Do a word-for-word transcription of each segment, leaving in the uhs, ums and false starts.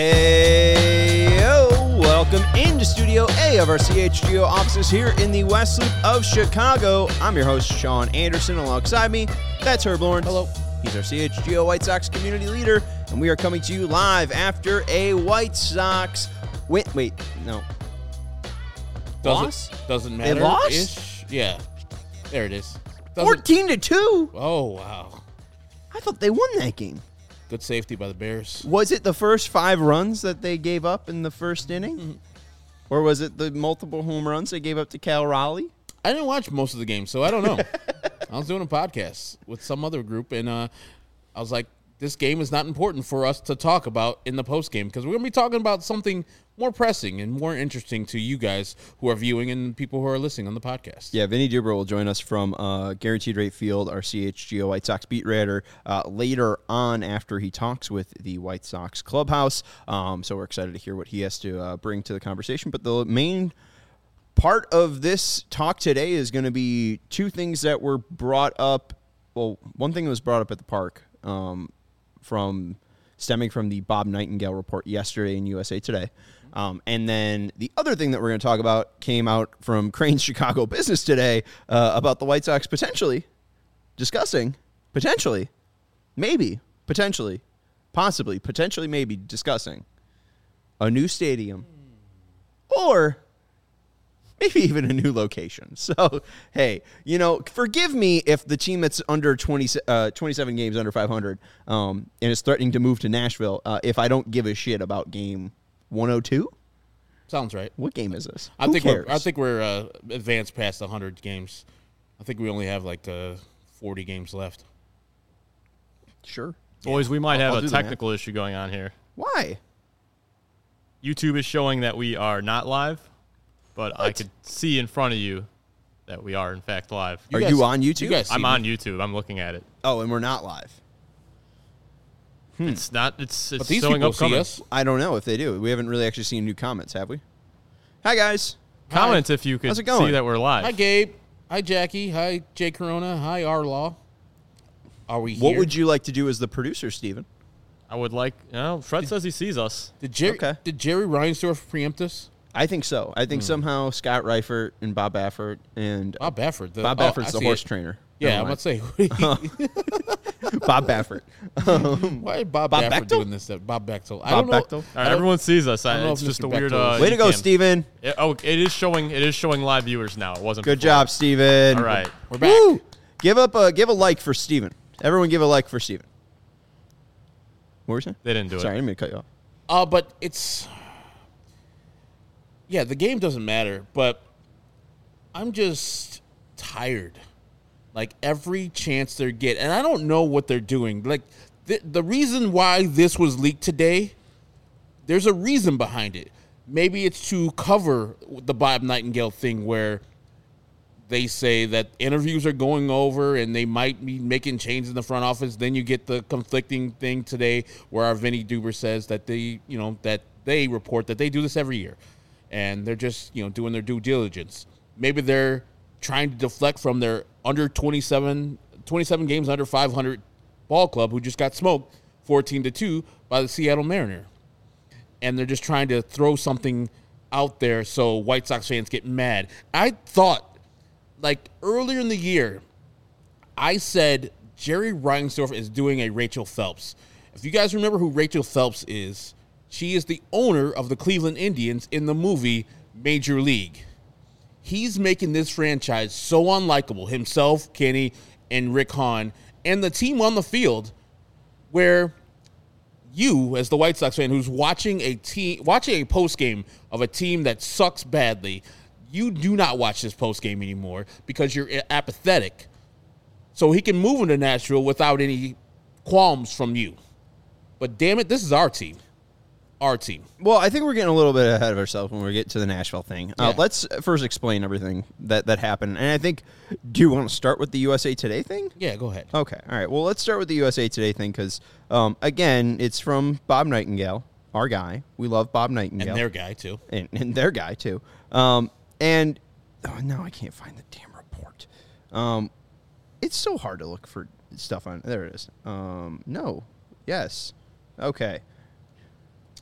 Hey, yo, welcome into Studio A of our C H G O offices here in the West Loop of Chicago. I'm your host, Sean Anderson. Alongside me, that's Herb Lawrence. Hello. He's our C H G O White Sox community leader, and we are coming to you live after a White Sox win. Wait, no. Doesn't, Loss? Doesn't matter. They lost? Ish. Yeah. There it is. Doesn't, fourteen to two. Oh, wow. I thought they won that game. Good safety by the Bears. Was it the first five runs that they gave up in the first inning? Mm-hmm. Or was it the multiple home runs they gave up to Cal Raleigh? I didn't watch most of the game, so I don't know. I was doing a podcast with some other group, and uh, I was like, this game is not important for us to talk about in the postgame because we're going to be talking about something more pressing and more interesting to you guys who are viewing and people who are listening on the podcast. Yeah, Vinny Duber will join us from uh, Guaranteed Rate Field, our C H G O White Sox beat writer, uh, later on after he talks with the White Sox clubhouse. Um, so we're excited to hear what he has to uh, bring to the conversation. But the main part of this talk today is going to be two things that were brought up. Well, one thing that was brought up at the park um, from stemming from the Bob Nightingale report yesterday in U S A Today. Um, and then the other thing that we're going to talk about came out from Crane's Chicago Business today uh, about the White Sox potentially discussing, potentially, maybe, potentially, possibly, potentially, maybe discussing a new stadium or maybe even a new location. So, hey, you know, forgive me if the team that's under twenty, uh, twenty-seven games under five hundred um, and is threatening to move to Nashville uh, if I don't give a shit about game one oh two? Sounds right. What game is this? I Who think cares? we're I think we're uh, advanced past one hundred games. I think we only have like uh, forty games left. Sure. Boys, we might I'll- have I'll do a the technical issue going on here. Why? YouTube is showing that we are not live, but I What? could see in front of you that we are, in fact, live. Are guys- you on YouTube? You guys see I'm me? on YouTube. I'm looking at it. Oh, and we're not live. It's not. It's, it's But these showing people up see coming. us. I don't know if they do. We haven't really actually seen new comments, have we? Hi, guys. Comment if you could How's it going? see that we're live. Hi, Gabe. Hi, Jackie. Hi, Jay Corona. Hi, Arlaw. Are we here? What would you like to do as the producer, Steven? I would like. You know, Fred says he sees us. Did Jerry, Okay. did Jerry Reinsdorf preempt us? I think so. I think somehow Scott Reifert and Bob Baffert and Bob Baffert. The, Bob oh, Baffert's I the see horse it. trainer. Yeah, Never I'm about to say. Bob Baffert. Um, Why is Bob, Bob Baffert Bechtel? doing this? That Bob Bechtel. I Bob don't know. Bechtel? All I right, don't- everyone sees us. I don't I, know it's if just Mister a weird. Bechtel Uh, is- Way to go, cam. Steven. It- oh, it is showing. It is showing live viewers now. It wasn't. Good before. job, Steven. All right. We're back. Woo! Give up a give a like for Steven. Everyone give a like for Steven. What were you saying? They didn't do Sorry, I it. didn't mean to cut you off. Uh, but it's yeah, the game doesn't matter, but I'm just tired. Like every chance they get, and I don't know what they're doing. Like the the reason why this was leaked today, there's a reason behind it. Maybe it's to cover the Bob Nightingale thing where they say that interviews are going over and they might be making changes in the front office. Then you get the conflicting thing today where our Vinny Duber says that they, you know, that they report that they do this every year and they're just, you know, doing their due diligence. Maybe they're trying to deflect from their under twenty-seven, twenty-seven games under five hundred ball club who just got smoked fourteen to two by the Seattle Mariner. And they're just trying to throw something out there so White Sox fans get mad. I thought, like, earlier in the year, I said Jerry Reinsdorf is doing a Rachel Phelps. If you guys remember who Rachel Phelps is, she is the owner of the Cleveland Indians in the movie Major League. He's making this franchise so unlikable, himself, Kenny, and Rick Hahn, and the team on the field, where you, as the White Sox fan who's watching a team, watching a post game of a team that sucks badly, you do not watch this post game anymore because you're apathetic. So he can move into Nashville without any qualms from you. But damn it, this is our team. Our team. Well, I think we're getting a little bit ahead of ourselves when we get to the Nashville thing. Uh, Yeah. let's first explain everything that, that happened. And I think, do you want to start with the U S A Today thing? Yeah, go ahead. Okay. All right. Well, let's start with the U S A Today thing because, um, again, it's from Bob Nightingale, our guy. We love Bob Nightingale. And their guy, too. And, and their guy, too. Um, and, oh, no, I can't find the damn report. Um, it's so hard to look for stuff on. There it is. Um, no. Yes. Okay.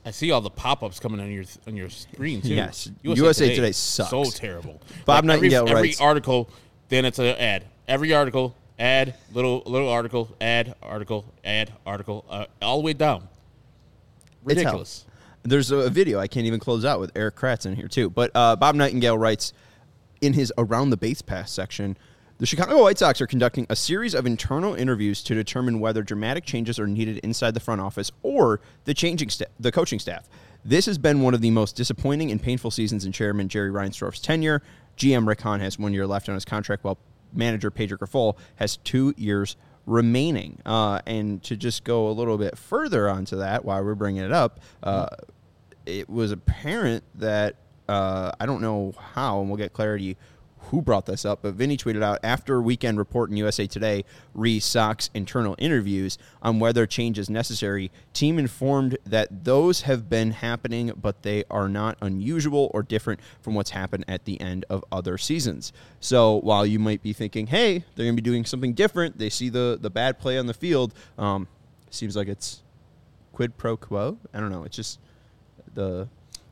I see all the pop-ups coming on your on your screen, too. Yes. U S A Today, Today sucks. So terrible. Bob like Nightingale every, writes. Every article, then it's an ad. Every article, ad, little little article, ad, article, ad, article, uh, all the way down. Ridiculous. There's a video I can't even close out with Eric Kratz in here, too. But uh, Bob Nightingale writes in his Around the Base Pass section, the Chicago White Sox are conducting a series of internal interviews to determine whether dramatic changes are needed inside the front office or the changing sta- the coaching staff. This has been one of the most disappointing and painful seasons in Chairman Jerry Reinsdorf's tenure. G M Rick Hahn has one year left on his contract, while manager Pedro Grifol has two years remaining. Uh, and to just go a little bit further onto that, while we're bringing it up, uh, it was apparent that uh, I don't know how, and we'll get clarity who brought this up, but Vinny tweeted out, after Weekend Report in U S A Today re-Sox internal interviews on whether change is necessary, team informed that those have been happening, but they are not unusual or different from what's happened at the end of other seasons. So while you might be thinking, hey, they're going to be doing something different, they see the, the bad play on the field, um, seems like it's quid pro quo. I don't know. It's just the...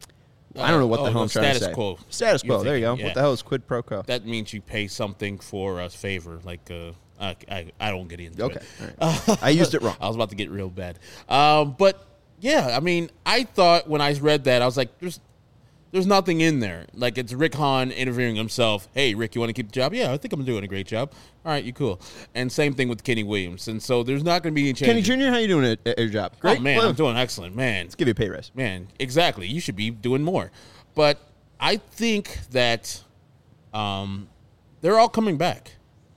I don't know what uh, the oh, hell I'm trying to say. Status quo. Status quo. You're There you go. thinking, What yeah. the hell is quid pro quo? That means you pay something for a favor. Like, uh, I, I, I don't get into Okay. it. All right. I used it wrong. I was about to get real bad. Um, but, yeah, I mean, I thought when I read that, I was like, there's there's nothing in there. Like, it's Rick Hahn interviewing himself. Hey, Rick, you want to keep the job? Yeah, I think I'm doing a great job. All right, you cool. And same thing with Kenny Williams. And so there's not going to be any change. Kenny Junior, how you doing at, at your job? Great. Oh, man, Well, I'm doing excellent. Man, let's give you a pay raise. Man, exactly. You should be doing more. But I think that um, they're all coming back.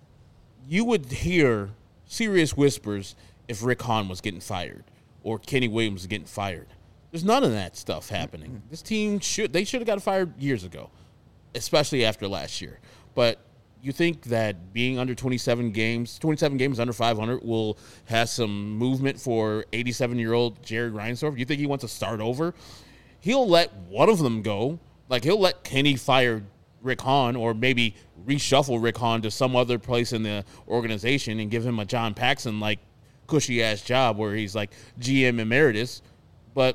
You would hear serious whispers if Rick Hahn was getting fired or Kenny Williams was getting fired. There's none of that stuff happening. This team should they should have got fired years ago, especially after last year. But you think that being under twenty-seven games, twenty-seven games under five hundred will have some movement for eighty-seven-year-old Jerry Reinsdorf? You think he wants to start over? He'll let one of them go. Like, he'll let Kenny fire Rick Hahn or maybe reshuffle Rick Hahn to some other place in the organization and give him a John Paxson-like cushy-ass job where he's like G M emeritus. But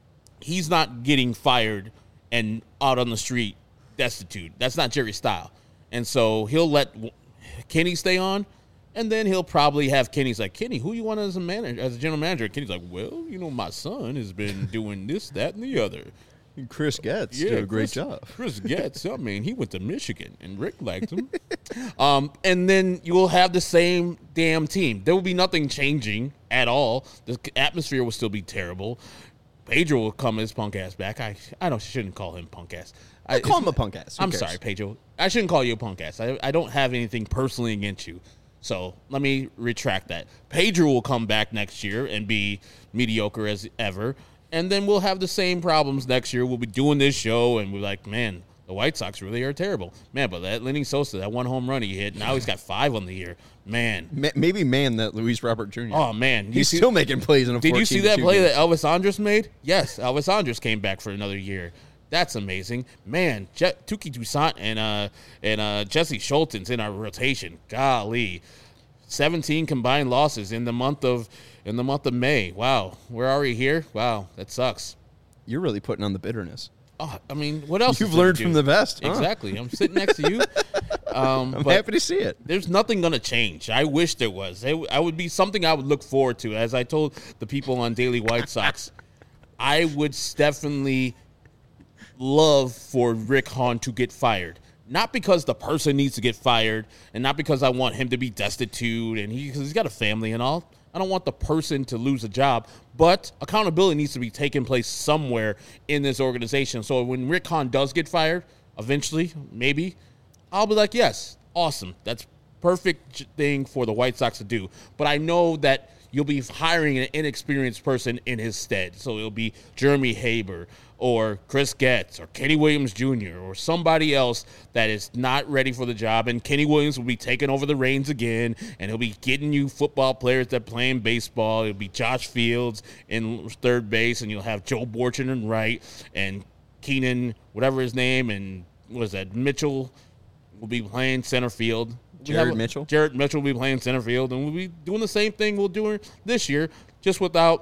he's not getting fired and out on the street destitute. That's not Jerry's style. And so he'll let Kenny stay on, and then he'll probably have Kenny's like, Kenny, who you want as a manager, as a general manager? And Kenny's like, well, you know, my son has been doing this, that, and the other. Chris Getz Yeah, did a great Chris, job. Chris Getz, I mean, he went to Michigan, and Rick liked him. um, and then you will have the same damn team. There will be nothing changing at all. The atmosphere will still be terrible. Pedro will come his punk ass back. I I don't shouldn't call him punk ass. I call him a punk ass. Who I'm cares? sorry, Pedro. I shouldn't call you a punk ass. I, I don't have anything personally against you. So let me retract that. Pedro will come back next year and be mediocre as ever. And then we'll have the same problems next year. We'll be doing this show, and we're like, man, the White Sox really are terrible. Man, but that Lenny Sosa, that one home run he hit, now he's got five on the year. Man. Ma- Maybe man that Luis Robert Junior Oh, man. He's still making plays in a Did you see that fourteen to two play game. that Elvis Andrus made? Yes, Elvis Andrus came back for another year. That's amazing. Man, Je- Tuki Toussaint and uh and uh Jesse Schulten's in our rotation. Golly. seventeen combined losses in the month of in the month of May. Wow. We're already here? Wow, that sucks. You're really putting on the bitterness. Oh, I mean, what else? You've is there to learned do? from the best. Huh? Exactly. I'm sitting next to you. Um, I'm but happy to see it. there's nothing going to change. I wish there was. It, I would be something I would look forward to. As I told the people on Daily White Sox, I would definitely love for Rick Hahn to get fired. Not because the person needs to get fired, and not because I want him to be destitute, and he, cause he's got a family and all. I don't want the person to lose a job, but accountability needs to be taking place somewhere in this organization. So when Rick Hahn does get fired, eventually, maybe, I'll be like, yes, awesome. That's perfect thing for the White Sox to do. But I know that you'll be hiring an inexperienced person in his stead. So it'll be Jeremy Haber or Chris Getz or Kenny Williams Junior or somebody else that is not ready for the job. And Kenny Williams will be taking over the reins again, and he'll be getting you football players that play in baseball. It'll be Josh Fields in third base, and you'll have Joe Borchin in right, and Keenan, whatever his name, and what is that, Mitchell will be playing center field. We Jared have a- Mitchell? Jared Mitchell will be playing center field, and we'll be doing the same thing we'll do this year, just without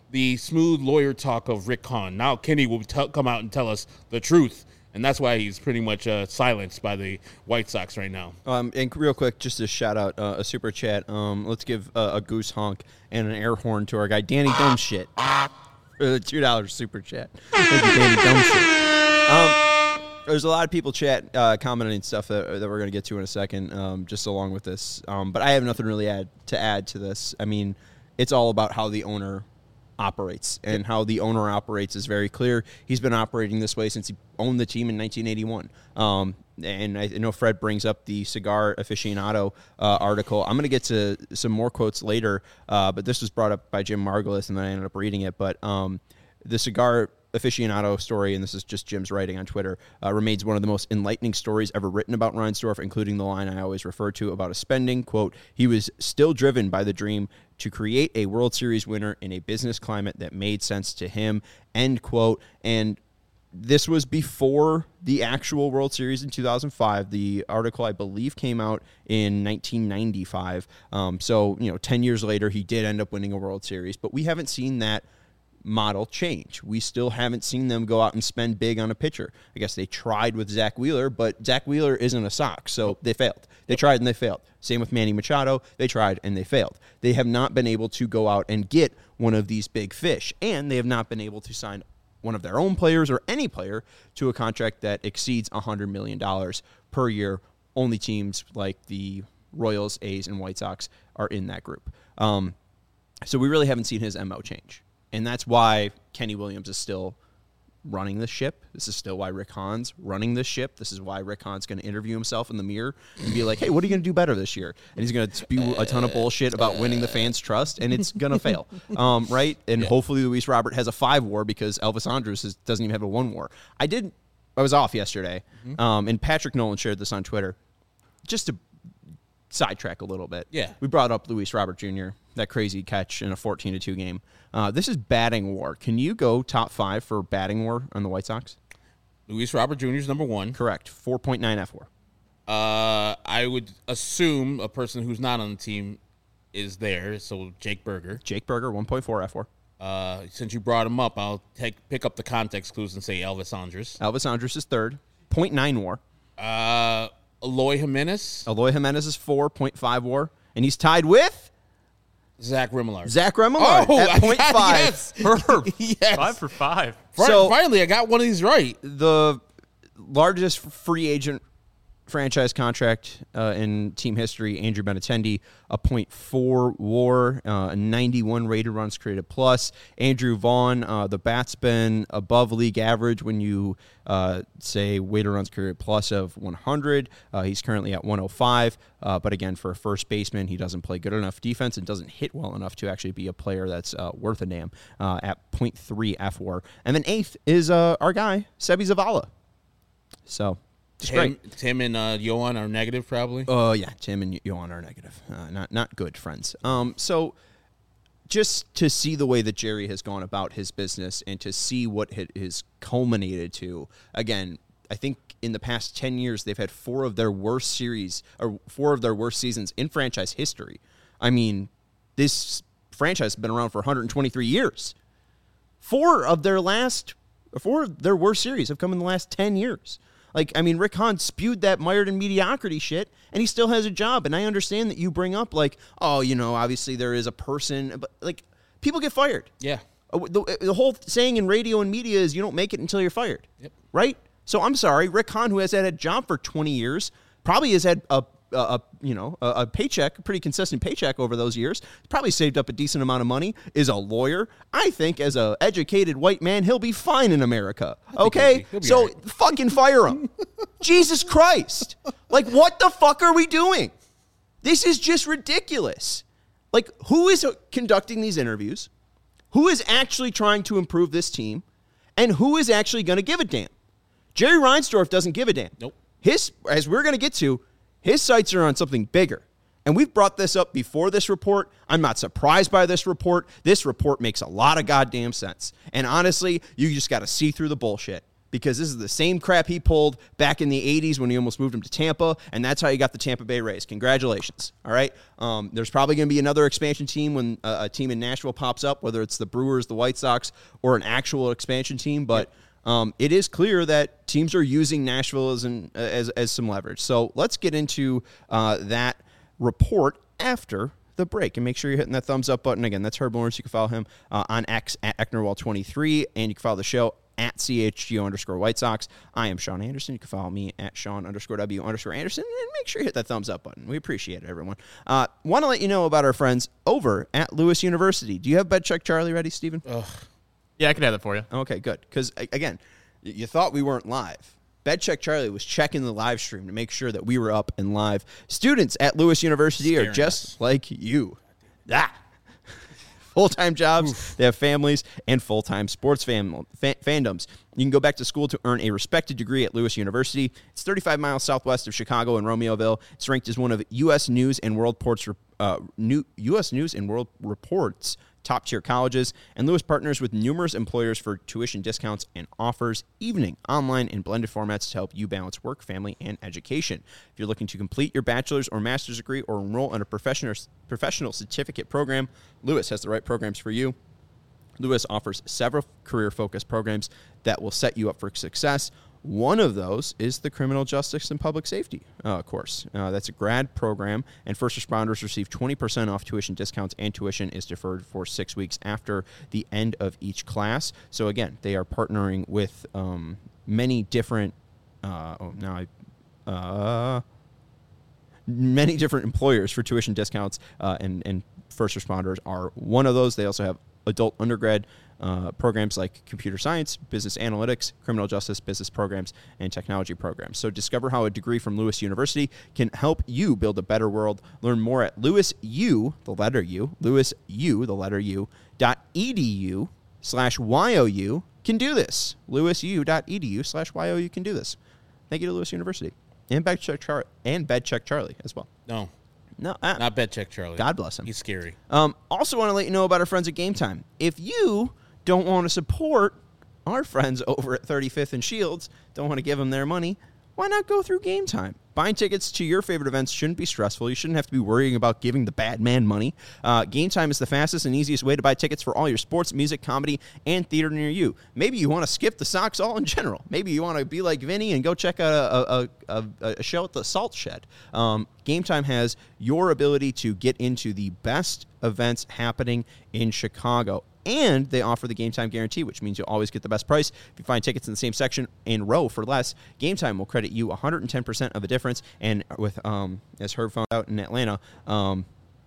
the smooth lawyer talk of Rick Hahn. Now Kenny will t- come out and tell us the truth. And that's why he's pretty much uh, silenced by the White Sox right now. Um, and real quick, just to shout out uh, a super chat. Um, let's give uh, a goose honk and an air horn to our guy Danny Dumbshit. For the two dollars super chat. Thank you, Danny Dumbshit. Um, there's a lot of people chat uh, commenting stuff that, that we're going to get to in a second, um, just along with this. Um, but I have nothing really add to add to this. I mean, it's all about how the owner operates, and how the owner operates is very clear. He's been operating this way since he owned the team in nineteen eighty-one. Um, and I know Fred brings up the Cigar Aficionado uh, article. I'm going to get to some more quotes later, uh, but this was brought up by Jim Margulis, and then I ended up reading it. But um, the Cigar Aficionado story, and this is just Jim's writing on Twitter, uh, remains one of the most enlightening stories ever written about Reinsdorf, including the line I always refer to about his spending. Quote, he was still driven by the dream to create a World Series winner in a business climate that made sense to him, end quote. And this was before the actual World Series in two thousand five. The article, I believe, came out in nineteen ninety-five. Um, so, you know, ten years later, he did end up winning a World Series, but we haven't seen that model change. We still haven't seen them go out and spend big on a pitcher. I guess they tried with Zach Wheeler, but Zach Wheeler isn't a Sox, so they failed. They tried and they failed. Same with Manny Machado. They tried and they failed. They have not been able to go out and get one of these big fish, and they have not been able to sign one of their own players or any player to a contract that exceeds one hundred million dollars per year. Only teams like the Royals, A's, and White Sox are in that group. Um, so we really haven't seen his M O change. And that's why Kenny Williams is still running the ship. This is still why Rick Hahn's running this ship. This is why Rick Hahn's going to interview himself in the mirror and be like, hey, what are you going to do better this year? And he's going to spew a ton of bullshit about winning the fans' trust, and it's going to fail, um, right? And yeah. Hopefully Luis Robert has a five war because Elvis Andrus is, doesn't even have a one war. I did. I was off yesterday, mm-hmm. um, and Patrick Nolan shared this on Twitter. Just to sidetrack a little bit. Yeah. We brought up Luis Robert Junior, that crazy catch in a fourteen to two game. Uh, this is batting war. Can you go top five for batting war on the White Sox? Luis Robert Junior is number one. Correct. four point nine F W A R. Uh, I would assume a person who's not on the team is there, so Jake Berger. Jake Berger, one point four F W A R. Uh, since you brought him up, I'll take pick up the context clues and say Elvis Andrus. Elvis Andrus is third. point nine W A R. Uh, Eloy Jimenez. Eloy Jimenez is four point five W A R. And he's tied with Zach Remillard. Zach Remillard oh, at point five. Yes. yes. Five for five. So, finally, I got one of these right. The largest free agent franchise contract uh, in team history, Andrew Benintendi, a point four W A R, uh, a ninety-one rated runs created plus. Andrew Vaughn, uh, the bat's been above league average when you uh, say weighted runs created plus of one hundred. Uh, he's currently at one oh five, uh, but again, for a first baseman, he doesn't play good enough defense and doesn't hit well enough to actually be a player that's uh, worth a damn uh, at point three F W A R. And then eighth is uh, our guy, Sebi Zavala. So... Tim, Tim and uh, Yohan are negative, probably. Oh uh, yeah, Tim and Yohan are negative. Uh, not not good friends. Um, so just to see the way that Jerry has gone about his business and to see what it has culminated to. Again, I think in the past ten years they've had four of their worst series or four of their worst seasons in franchise history. I mean, this franchise has been around for one hundred twenty-three years. Four of their last, four of their worst series have come in the last ten years. Like, I mean, Rick Hahn spewed that mired in mediocrity shit, and he still has a job. And I understand that you bring up, like, oh, you know, obviously there is a person, but, like, people get fired. Yeah. The, the whole saying in radio and media is you don't make it until you're fired. Yep. Right? So I'm sorry, Rick Hahn, who has had a job for twenty years, probably has had a, a, a you know, a, a paycheck, a pretty consistent paycheck over those years, probably saved up a decent amount of money, is a lawyer. I think as a educated white man, he'll be fine in America. Okay? He'll be, he'll be so right. fucking fire him. Jesus Christ. Like, what the fuck are we doing? This is just ridiculous. Like, who is conducting these interviews? Who is actually trying to improve this team? And who is actually going to give a damn? Jerry Reinsdorf doesn't give a damn. Nope. His, as we're going to get to, his sights are on something bigger. And we've brought this up before this report. I'm not surprised by this report. This report makes a lot of goddamn sense. And honestly, you just got to see through the bullshit. because this is the same crap he pulled back in the eighties when he almost moved him to Tampa, and that's how you got the Tampa Bay Rays. Congratulations. All right? Um, there's probably going to be another expansion team when uh, a team in Nashville pops up, whether it's the Brewers, the White Sox, or an actual expansion team, but um, it is clear that teams are using Nashville as, an, as, as some leverage. So let's get into uh, that report after the break, and make sure you're hitting that thumbs up button. Again, that's Herb Lawrence. You can follow him uh, on X at Ecknerwall twenty-three, and you can follow the show at C H G O underscore White Sox. I am Sean Anderson. You can follow me at Sean underscore W underscore Anderson, and make sure you hit that thumbs up button. We appreciate it, everyone. Uh, Want to let you know about our friends over at Lewis University. Do you have Bed Check Charlie ready, Steven? Ugh. Yeah, I can have that for you. Okay, good. Because, again, you thought we weren't live. Bed Check Charlie was checking the live stream to make sure that we were up and live. Students at Lewis University Scaring are just us. like you. Ah. Full-time jobs, Oof. They have families, and full-time sports fam- fa- fandoms. You can go back to school to earn a respected degree at Lewis University. It's thirty-five miles southwest of Chicago in Romeoville. It's ranked as one of U S News and World Report's uh, new U S News and World Report's top-tier colleges, and Lewis partners with numerous employers for tuition discounts and offers evening, online, and blended formats to help you balance work, family, and education. If you're looking to complete your bachelor's or master's degree or enroll in a professional professional certificate program, Lewis has the right programs for you. Lewis offers several career-focused programs that will set you up for success. One of those is the Criminal Justice and Public Safety uh, course. Uh, that's a grad program, and first responders receive twenty percent off tuition discounts, and tuition is deferred for six weeks after the end of each class. So, again, they are partnering with um, many different uh, – oh, now I uh, – many different employers for tuition discounts, uh, and, and first responders are one of those. They also have adult undergrad uh, programs like computer science, business analytics, criminal justice, business programs, and technology programs. So discover how a degree from Lewis University can help you build a better world. Learn more at Lewis U, the letter U, Lewis U, the letter U, dot edu slash YOU can do this. lewisu.edu slash YOU can do this. Thank you to Lewis University. And Bed Check Char- and Bed Check Charlie as well. No. No, uh, Not Bed Check Charlie. God bless him. He's scary. Um, also want to let you know about our friends at Game Time. If you don't want to support our friends over at thirty-fifth and Shields, don't want to give them their money, why not go through Game Time? Buying tickets to your favorite events shouldn't be stressful. You shouldn't have to be worrying about giving the bad man money. Uh, Game Time is the fastest and easiest way to buy tickets for all your sports, music, comedy, and theater near you. Maybe you want to skip the Sox all in general. Maybe you want to be like Vinny and go check out a, a, a, a show at the Salt Shed. Um, Game Time has your ability to get into the best events happening in Chicago. And they offer the Game Time guarantee, which means you'll always get the best price. If you find tickets in the same section in row for less, Game Time will credit you one hundred ten percent of the difference. And with, um, as Herb found out in Atlanta, um,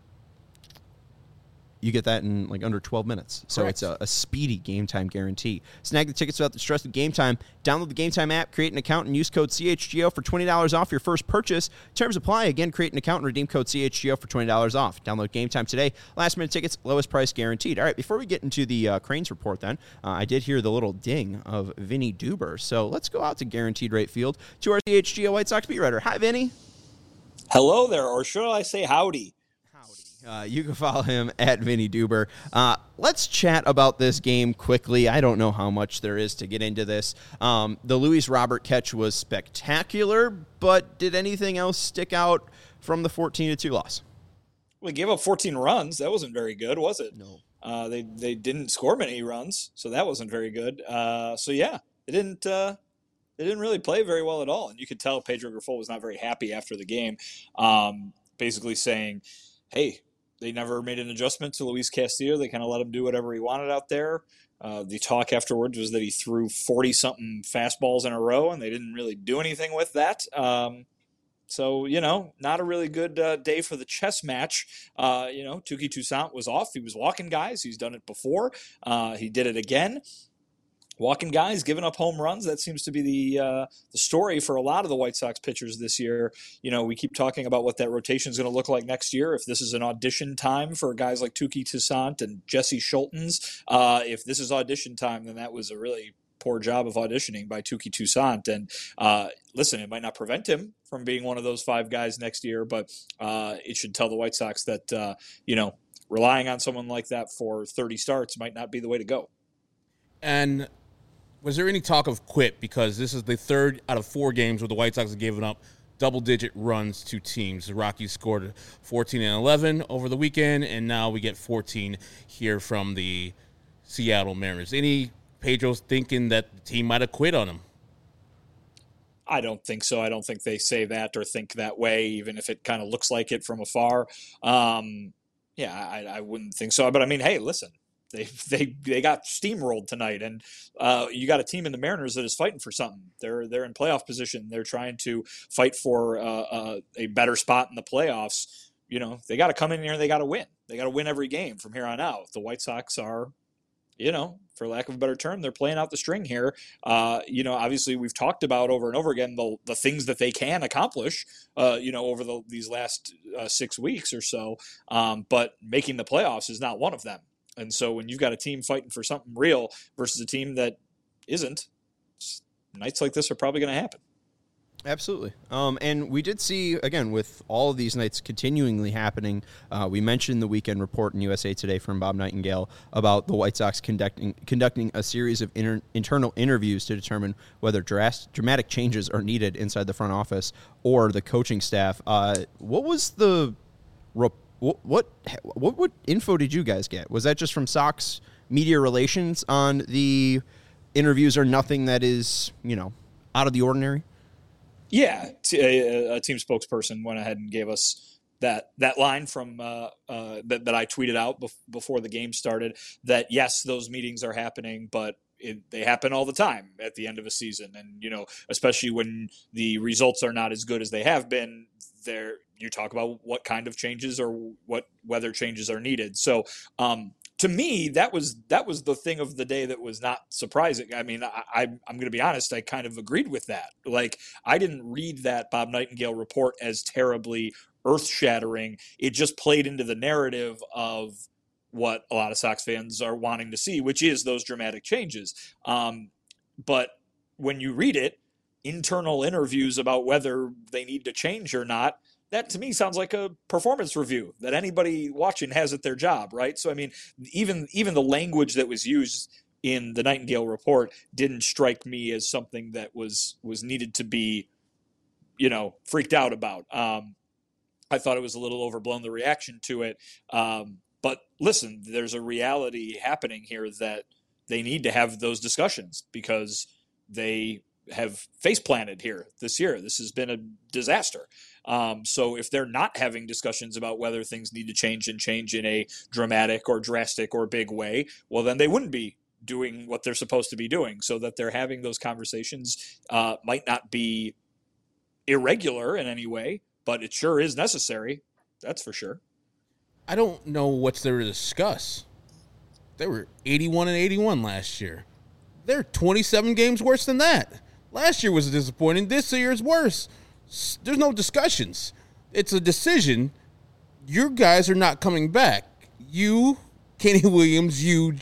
you get that in like under twelve minutes. So Correct. It's a, a speedy Game Time guarantee. Snag the tickets without the stress of Game Time. Download the Game Time app, create an account, and use code C H G O for twenty dollars off your first purchase. Terms apply. Again, create an account and redeem code C H G O for twenty dollars off. Download Game Time today. Last minute tickets, lowest price guaranteed. All right, before we get into the uh, Cranes report then, uh, I did hear the little ding of Vinny Duber. So let's go out to Guaranteed Rate Field to our C H G O White Sox beat writer. Hi, Vinny. Hello there, or should I say howdy? Uh, you can follow him at Vinny Duber. Uh, let's chat about this game quickly. I don't know how much there is to get into this. Um, the Luis Robert catch was spectacular, but did anything else stick out from the fourteen to two loss? Well, they gave up fourteen runs. That wasn't very good, was it? No. Uh, they they didn't score many runs, so that wasn't very good. Uh, so yeah, they didn't uh, they didn't really play very well at all, and you could tell Pedro Grifol was not very happy after the game, um, basically saying, "Hey." They never made an adjustment to Luis Castillo. They kind of let him do whatever he wanted out there. Uh, the talk afterwards was that he threw forty-something fastballs in a row, and they didn't really do anything with that. Um, so, you know, not a really good uh, day for the chess match. Uh, you know, Touki Toussaint was off. He was walking guys. He's done it before. Uh, he did it again. Walking guys, giving up home runs. That seems to be the uh, the story for a lot of the White Sox pitchers this year. You know, we keep talking about what that rotation is going to look like next year. If this is an audition time for guys like Touki Toussaint and Jesse Schultens, uh, if this is audition time, then that was a really poor job of auditioning by Touki Toussaint. And uh, listen, it might not prevent him from being one of those five guys next year, but uh, it should tell the White Sox that, uh, you know, relying on someone like that for thirty starts might not be the way to go. And was there any talk of quit? Because this is the third out of four games where the White Sox have given up double-digit runs to teams. The Rockies scored fourteen and eleven over the weekend, and now we get fourteen here from the Seattle Mariners. Any Pedro's thinking that the team might have quit on him? I don't think so. I don't think they say that or think that way, even if it kind of looks like it from afar. Um, yeah, I, I wouldn't think so. But I mean, hey, listen, they they they got steamrolled tonight, and uh, you got a team in the Mariners that is fighting for something. They're they're in playoff position. They're trying to fight for uh, uh, a better spot in the playoffs. You know, they got to come in here and they got to win. They got to win every game from here on out. The White Sox are, you know, for lack of a better term, they're playing out the string here. Uh, you know, obviously we've talked about over and over again the the things that they can accomplish, uh, you know, over the, these last uh, six weeks or so. Um, but making the playoffs is not one of them. And so when you've got a team fighting for something real versus a team that isn't, nights like this are probably going to happen. Absolutely. Um, and we did see, again, with all of these nights continually happening, uh, we mentioned the weekend report in U S A Today from Bob Nightingale about the White Sox conducting conducting a series of inter- internal interviews to determine whether dras- dramatic changes are needed inside the front office or the coaching staff. Uh, what was the rep- what, what what what info did you guys get? Was that just from Sox media relations on the interviews or nothing that is, you know, out of the ordinary? Yeah, a, a team spokesperson went ahead and gave us that that line from uh, uh, that, that I tweeted out bef- before the game started, that yes, those meetings are happening, but it, they happen all the time at the end of a season. And, you know, especially when the results are not as good as they have been, there you talk about what kind of changes or what whether changes are needed. So um, to me, that was that was the thing of the day that was not surprising. I mean, I, I, I'm going to be honest, I kind of agreed with that. Like, I didn't read that Bob Nightingale report as terribly earth-shattering. It just played into the narrative of what a lot of Sox fans are wanting to see, which is those dramatic changes. Um, but when you read it, internal interviews about whether they need to change or not, that to me sounds like a performance review that anybody watching has at their job, right? So, I mean, even even the language that was used in the Nightingale report didn't strike me as something that was was needed to be, you know, freaked out about. Um, I thought it was a little overblown, the reaction to it. Um, but listen, there's a reality happening here that they need to have those discussions because they have face planted here this year. This has been a disaster. Um, so if they're not having discussions about whether things need to change and change in a dramatic or drastic or big way, well, then they wouldn't be doing what they're supposed to be doing. So that they're having those conversations uh, might not be irregular in any way, but it sure is necessary. That's for sure. I don't know what's there to discuss. They were eighty-one and eighty-one last year. They're twenty-seven games worse than that. Last year was disappointing. This year is worse. There's no discussions. It's a decision. Your guys are not coming back. You, Kenny Williams, you,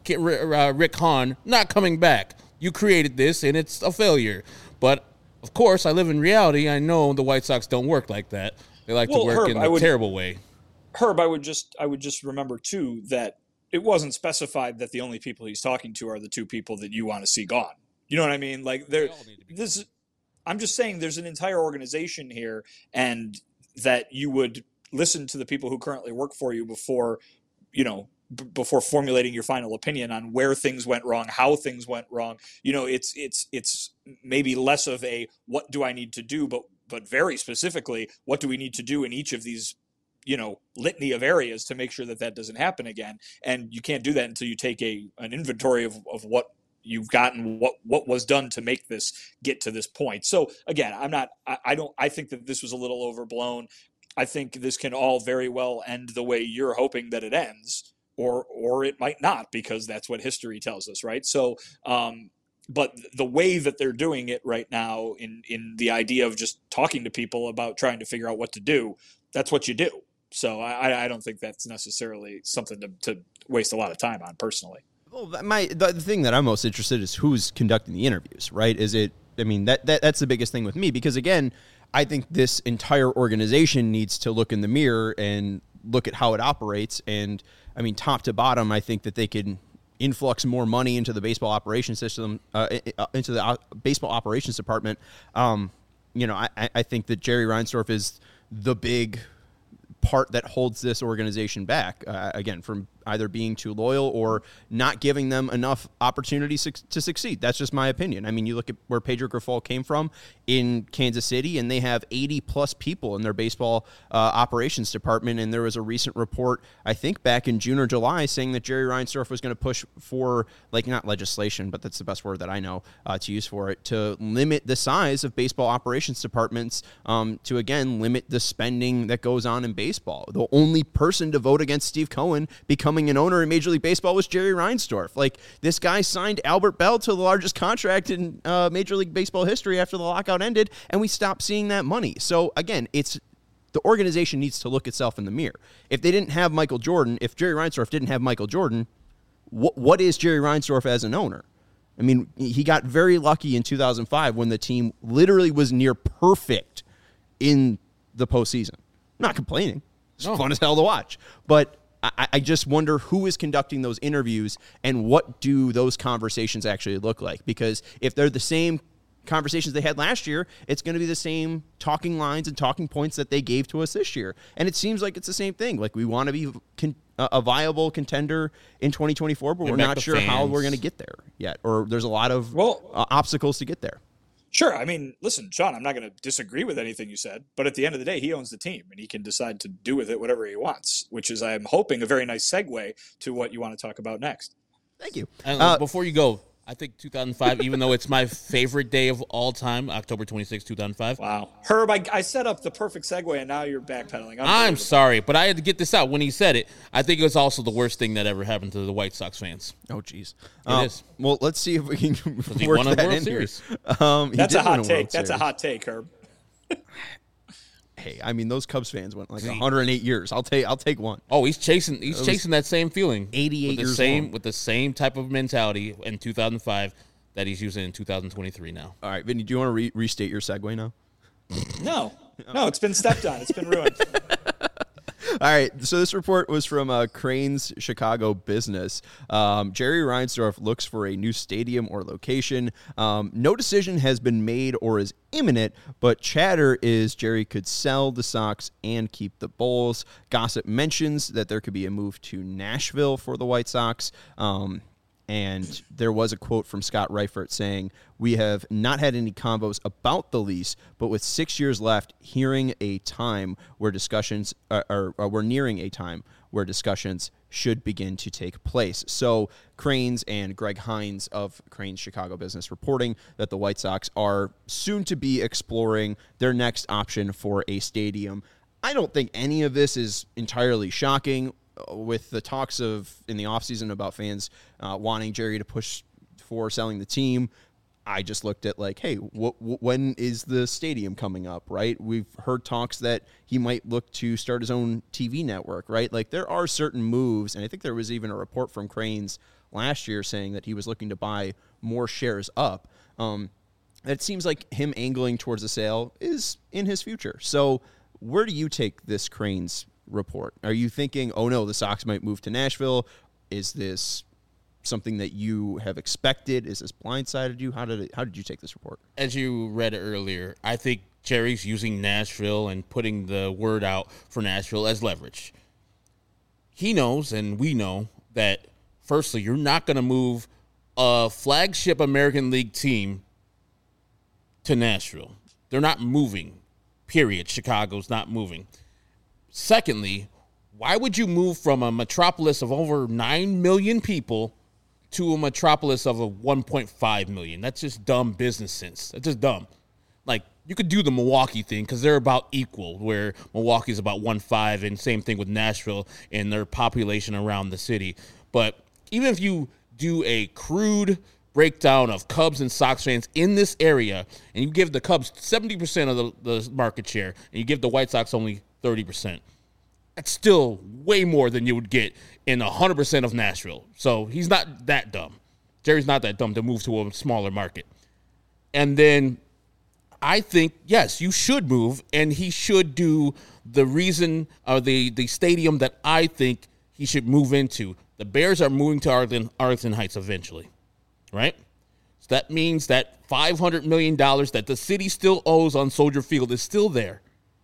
Rick Hahn, not coming back. You created this, and it's a failure. But, of course, I live in reality. I know the White Sox don't work like that. They like well, to work Herb, in a would, terrible way. Herb, I would just I would just remember, too, that it wasn't specified that the only people he's talking to are the two people that you want to see gone. You know what I mean? Like, there, this. I'm just saying there's an entire organization here, and that you would listen to the people who currently work for you before, you know, b- before formulating your final opinion on where things went wrong, how things went wrong. You know, it's it's it's maybe less of a what do I need to do, but but very specifically, what do we need to do in each of these, you know, litany of areas to make sure that that doesn't happen again. And you can't do that until you take a an inventory of, of what you've gotten, what what was done to make this get to this point. So again, I'm not, I, I don't, I think that this was a little overblown. I think this can all very well end the way you're hoping that it ends, or or it might not, because that's what history tells us, right? So, um, but the way that they're doing it right now, in in the idea of just talking to people about trying to figure out what to do, that's what you do. So I, I don't think that's necessarily something to, to waste a lot of time on personally. Well, my the thing that I'm most interested in is who's conducting the interviews, right? Is it, I mean, that, that that's the biggest thing with me, because, again, I think this entire organization needs to look in the mirror and look at how it operates. And, I mean, top to bottom, I think that they can influx more money into the baseball operations system, uh, into the uh, baseball operations department. Um, you know, I, I think that Jerry Reinsdorf is the big part that holds this organization back, uh, again, from either being too loyal or not giving them enough opportunities su- to succeed. That's just my opinion. I mean, you look at where Pedro Grifol came from in Kansas City, and they have eighty plus people in their baseball uh, operations department. And there was a recent report, I think back in June or July, saying that Jerry Reinsdorf was going to push for, like, not legislation, but that's the best word that I know uh, to use for it, to limit the size of baseball operations departments, um, to, again, limit the spending that goes on in baseball. The only person to vote against Steve Cohen becoming an owner in Major League Baseball was Jerry Reinsdorf. Like, this guy signed Albert Bell to the largest contract in uh, Major League Baseball history after the lockout ended, and we stopped seeing that money. So, again, it's the organization needs to look itself in the mirror. If they didn't have Michael Jordan, if Jerry Reinsdorf didn't have Michael Jordan, wh- what is Jerry Reinsdorf as an owner? I mean, he got very lucky in two thousand five when the team literally was near perfect in the postseason. I'm not complaining. It's No. fun as hell to watch. But I, I just wonder who is conducting those interviews and what do those conversations actually look like? Because if they're the same conversations they had last year, it's going to be the same talking lines and talking points that they gave to us this year. And it seems like it's the same thing. Like, we want to be con- a viable contender in twenty twenty-four, but Bring we're back not the sure how fans. we're going to get there yet. Or there's a lot of Well- uh, obstacles to get there. Sure. I mean, listen, Sean, I'm not going to disagree with anything you said, but at the end of the day, he owns the team and he can decide to do with it whatever he wants, which is, I'm hoping, a very nice segue to what you want to talk about next. Thank you. And Uh, before you go, I think two thousand five, even though it's my favorite day of all time, October twenty-sixth, two thousand five. Wow. Herb, I, I set up the perfect segue and now you're backpedaling. I'm Unbelievable. sorry, but I had to get this out when he said it. I think it was also the worst thing that ever happened to the White Sox fans. Oh, geez. It Uh, is. Well, let's see if we can he work won a that World in Series. here. Um, he That's did a hot win take. World That's a Series. hot take, Herb. Hey, I mean, those Cubs fans went like See- one hundred eight years. I'll take I'll take one. Oh, he's chasing. He's was chasing that same feeling. eighty-eight with the years same long. with the same type of mentality in two thousand five that he's using in two thousand twenty-three now. All right, Vinny, do you want to re- restate your segue now? No. No, it's been stepped on. It's been ruined. All right, so this report was from uh, Crane's Chicago Business. Um, Jerry Reinsdorf looks for a new stadium or location. Um, no decision has been made or is imminent, but chatter is Jerry could sell the Sox and keep the Bulls. Gossip mentions that there could be a move to Nashville for the White Sox. Um, And there was a quote from Scott Reifert saying, "We have not had any combos about the lease, but with six years left, hearing a time where discussions are, are, are we're nearing a time where discussions should begin to take place." So Cranes and Greg Hines of Cranes Chicago Business reporting that the White Sox are soon to be exploring their next option for a stadium. I don't think any of this is entirely shocking. With the talks of in the offseason about fans uh, wanting Jerry to push for selling the team, I just looked at like, hey, wh- wh- when is the stadium coming up, right? We've heard talks that he might look to start his own T V network, right? Like, there are certain moves, and I think there was even a report from Cranes last year saying that he was looking to buy more shares up. Um, it seems like him angling towards a sale is in his future. So where do you take this Cranes report? Are you thinking, oh no, the Sox might move to Nashville? Is this something that you have expected? Is this blindsided you? How did it, how did you take this report? As you read earlier, I think Jerry's using Nashville and putting the word out for Nashville as leverage. He knows, and we know, that firstly, you're not going to move a flagship American League team to Nashville. They're not moving, period. Chicago's not moving. Secondly, why would you move from a metropolis of over nine million people to a metropolis of a one point five million? That's just dumb business sense. That's just dumb. Like, you could do the Milwaukee thing because they're about equal, where Milwaukee's about one point five, and same thing with Nashville and their population around the city. But even if you do a crude breakdown of Cubs and Sox fans in this area, and you give the Cubs seventy percent of the, the market share, and you give the White Sox only thirty percent, that's still way more than you would get in one hundred percent of Nashville. So he's not that dumb. Jerry's not that dumb to move to a smaller market. And then I think, yes, you should move, and he should do the reason, or the, the stadium that I think he should move into. The The Bears are moving to Arlington, Arlington Heights eventually, right? So that means that five hundred million dollars that the city still owes on Soldier Field is still there.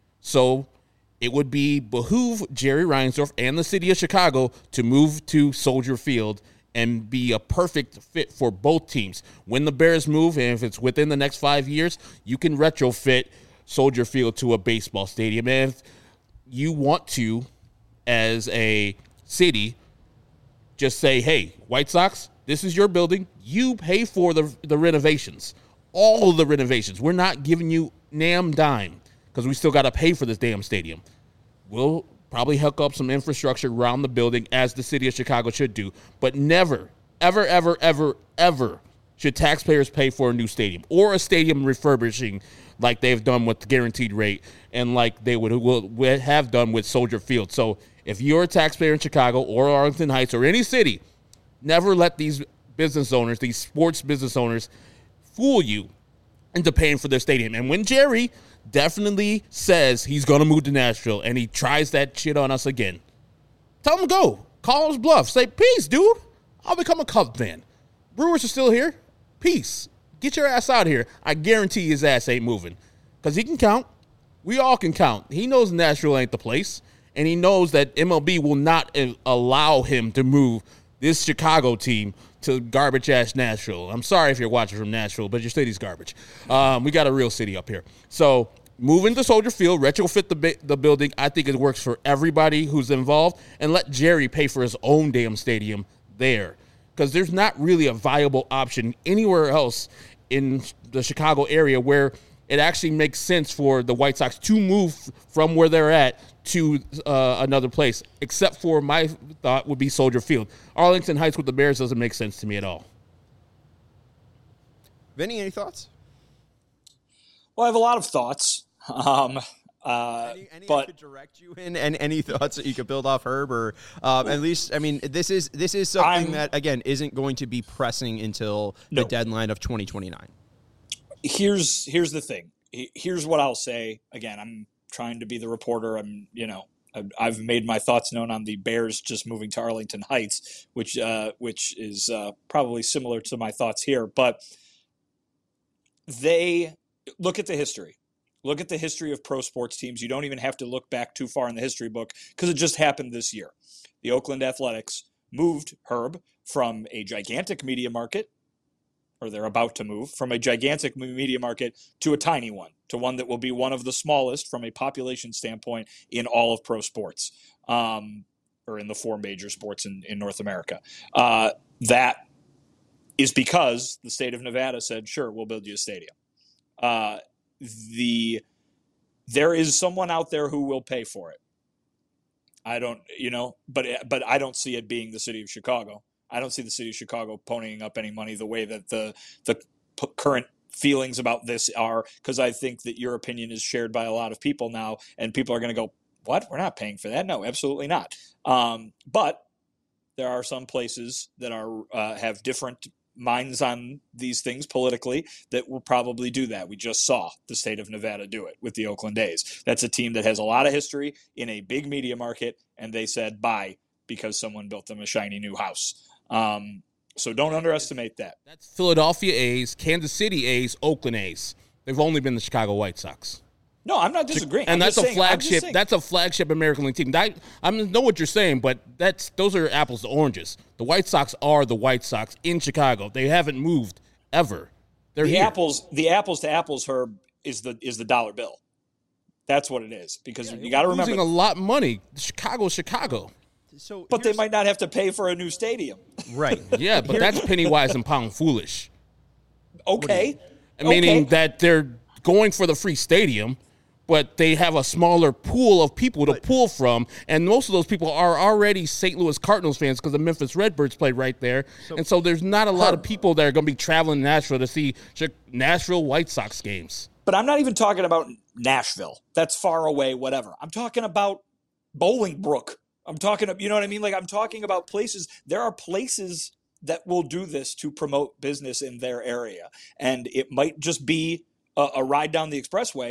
So it would be behoove Jerry Reinsdorf and the city of Chicago to move to Soldier Field and be a perfect fit for both teams. When the Bears move, and if it's within the next five years, you can retrofit Soldier Field to a baseball stadium. And if you want to, as a city, just say, hey, White Sox, this is your building. You pay for the, the renovations, all of the renovations. We're not giving you nam dime because we still got to pay for this damn stadium. We'll probably hook up some infrastructure around the building, as the city of Chicago should do. But never, ever, ever, ever, ever should taxpayers pay for a new stadium or a stadium refurbishing like they've done with the guaranteed rate and like they would, would have done with Soldier Field. So if you're a taxpayer in Chicago or Arlington Heights or any city, never let these business owners, these sports business owners, fool you into paying for their stadium. And when Jerry definitely says he's going to move to Nashville and he tries that shit on us again, tell him to go. Call his bluff. Say, peace, dude. I'll become a Cubs fan. Brewers are still here. Peace. Get your ass out of here. I guarantee his ass ain't moving because he can count. We all can count. He knows Nashville ain't the place, and he knows that M L B will not allow him to move this Chicago team to garbage-ass Nashville. I'm sorry if you're watching from Nashville, but your city's garbage. Um, we got a real city up here. So moving to Soldier Field, retrofit the, the building, I think it works for everybody who's involved, and let Jerry pay for his own damn stadium there because there's not really a viable option anywhere else in the Chicago area where it actually makes sense for the White Sox to move from where they're at to uh, another place, except for my thought would be Soldier Field. Arlington Heights with the Bears doesn't make sense to me at all. Vinny, any thoughts? Well, I have a lot of thoughts. Um, uh, any any but I could direct you in, and any thoughts that you could build off Herb, or um, at least, I mean, this is this is something I'm, that again isn't going to be pressing until the no. deadline of twenty twenty-nine. Here's here's the thing. Here's what I'll say. Again, I'm trying to be the reporter. I'm, you know, I've made my thoughts known on the Bears just moving to Arlington Heights, which uh, which is uh, probably similar to my thoughts here. But they look at the history. Look at the history of pro sports teams. You don't even have to look back too far in the history book because it just happened this year. The Oakland Athletics moved Herb from a gigantic media market, or they're about to move, from a gigantic media market to a tiny one, to one that will be one of the smallest from a population standpoint in all of pro sports, um, or in the four major sports in, in North America. Uh, that is because the state of Nevada said, sure, we'll build you a stadium. Uh, the there is someone out there who will pay for it. I don't, you know, but but I don't see it being the city of Chicago. I don't see the city of Chicago ponying up any money the way that the the p- current feelings about this are, because I think that your opinion is shared by a lot of people now, and people are going to go, what? We're not paying for that. No, absolutely not. Um, but there are some places that are uh, have different minds on these things politically that will probably do that. We just saw the state of Nevada do it with the Oakland A's. That's a team that has a lot of history in a big media market, and they said bye because someone built them a shiny new house. Um, so don't underestimate that. That's Philadelphia A's, Kansas City A's, Oakland A's. They've only been the Chicago White Sox. No, I'm not disagreeing. And I'm that's just a saying, flagship. That's a flagship American League team. That, I know what you're saying, but that's those are apples to oranges. The White Sox are the White Sox in Chicago. They haven't moved ever. They're the here. apples. The apples to apples, Herb, is the is the dollar bill. That's what it is, because Yeah, you got to remember losing a lot of money. Chicago, Chicago. So, but they here's- might not have to pay for a new stadium. right? Yeah, but that's penny wise and pound foolish. Okay, Meaning okay. that they're going for the free stadium, but they have a smaller pool of people to pull from, and most of those people are already Saint Louis Cardinals fans because the Memphis Redbirds played right there, and so there's not a lot of people that are going to be traveling to Nashville to see Nashville White Sox games. But I'm not even talking about Nashville. That's far away, whatever. I'm talking about Bolingbrook. I'm talking, you know what I mean? Like, I'm talking about places. There are places that will do this to promote business in their area, and it might just be a, a ride down the expressway,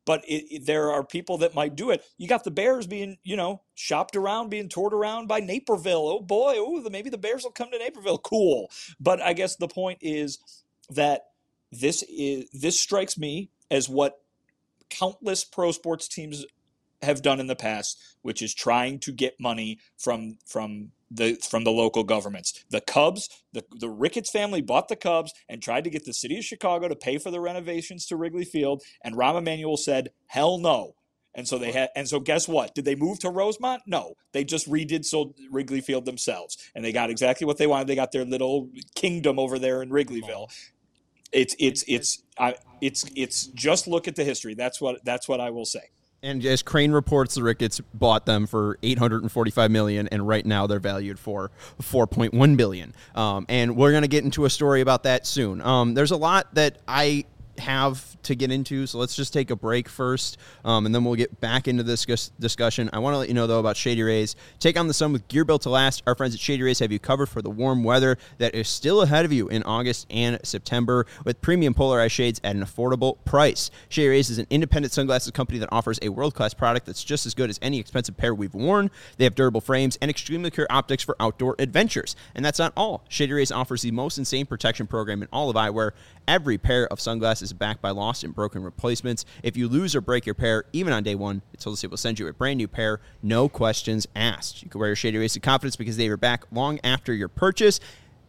but it, it, there are people that might do it. You got the Bears being, you know, shopped around, being toured around by Naperville. Oh boy, oh, the, maybe the Bears will come to Naperville. Cool. But I guess the point is that this is this strikes me as what countless pro sports teams have done in the past, which is trying to get money from from the from the local governments. The Cubs, the, the Ricketts family bought the Cubs and tried to get the city of Chicago to pay for the renovations to Wrigley Field, and Rahm Emanuel said, hell no. And so they had, and so guess what? Did they move to Rosemont? No, they just redid so Wrigley Field themselves, and they got exactly what they wanted. They got their little kingdom over there in Wrigleyville. It's it's it's I, it's it's just look at the history. That's what that's what I will say. And as Crane reports, the Ricketts bought them for eight hundred forty-five million dollars, and right now they're valued for four point one billion dollars. Um, and we're going to get into a story about that soon. Um, there's a lot that I have to get into, so let's just take a break first, um, and then we'll get back into this dis- discussion. I want to let you know, though, about Shady Rays. Take on the sun with gear built to last. Our friends at Shady Rays have you covered for the warm weather that is still ahead of you in August and September with premium polarized shades at an affordable price. Shady Rays is an independent sunglasses company that offers a world-class product that's just as good as any expensive pair we've worn. They have durable frames and extremely clear optics for outdoor adventures. And that's not all. Shady Rays offers the most insane protection program in all of eyewear. Every pair of sunglasses is backed by lost and broken replacements. If you lose or break your pair, even on day one, it's told us it will send you a brand new pair, no questions asked. You can wear your Shady Rays with confidence because they are back long after your purchase.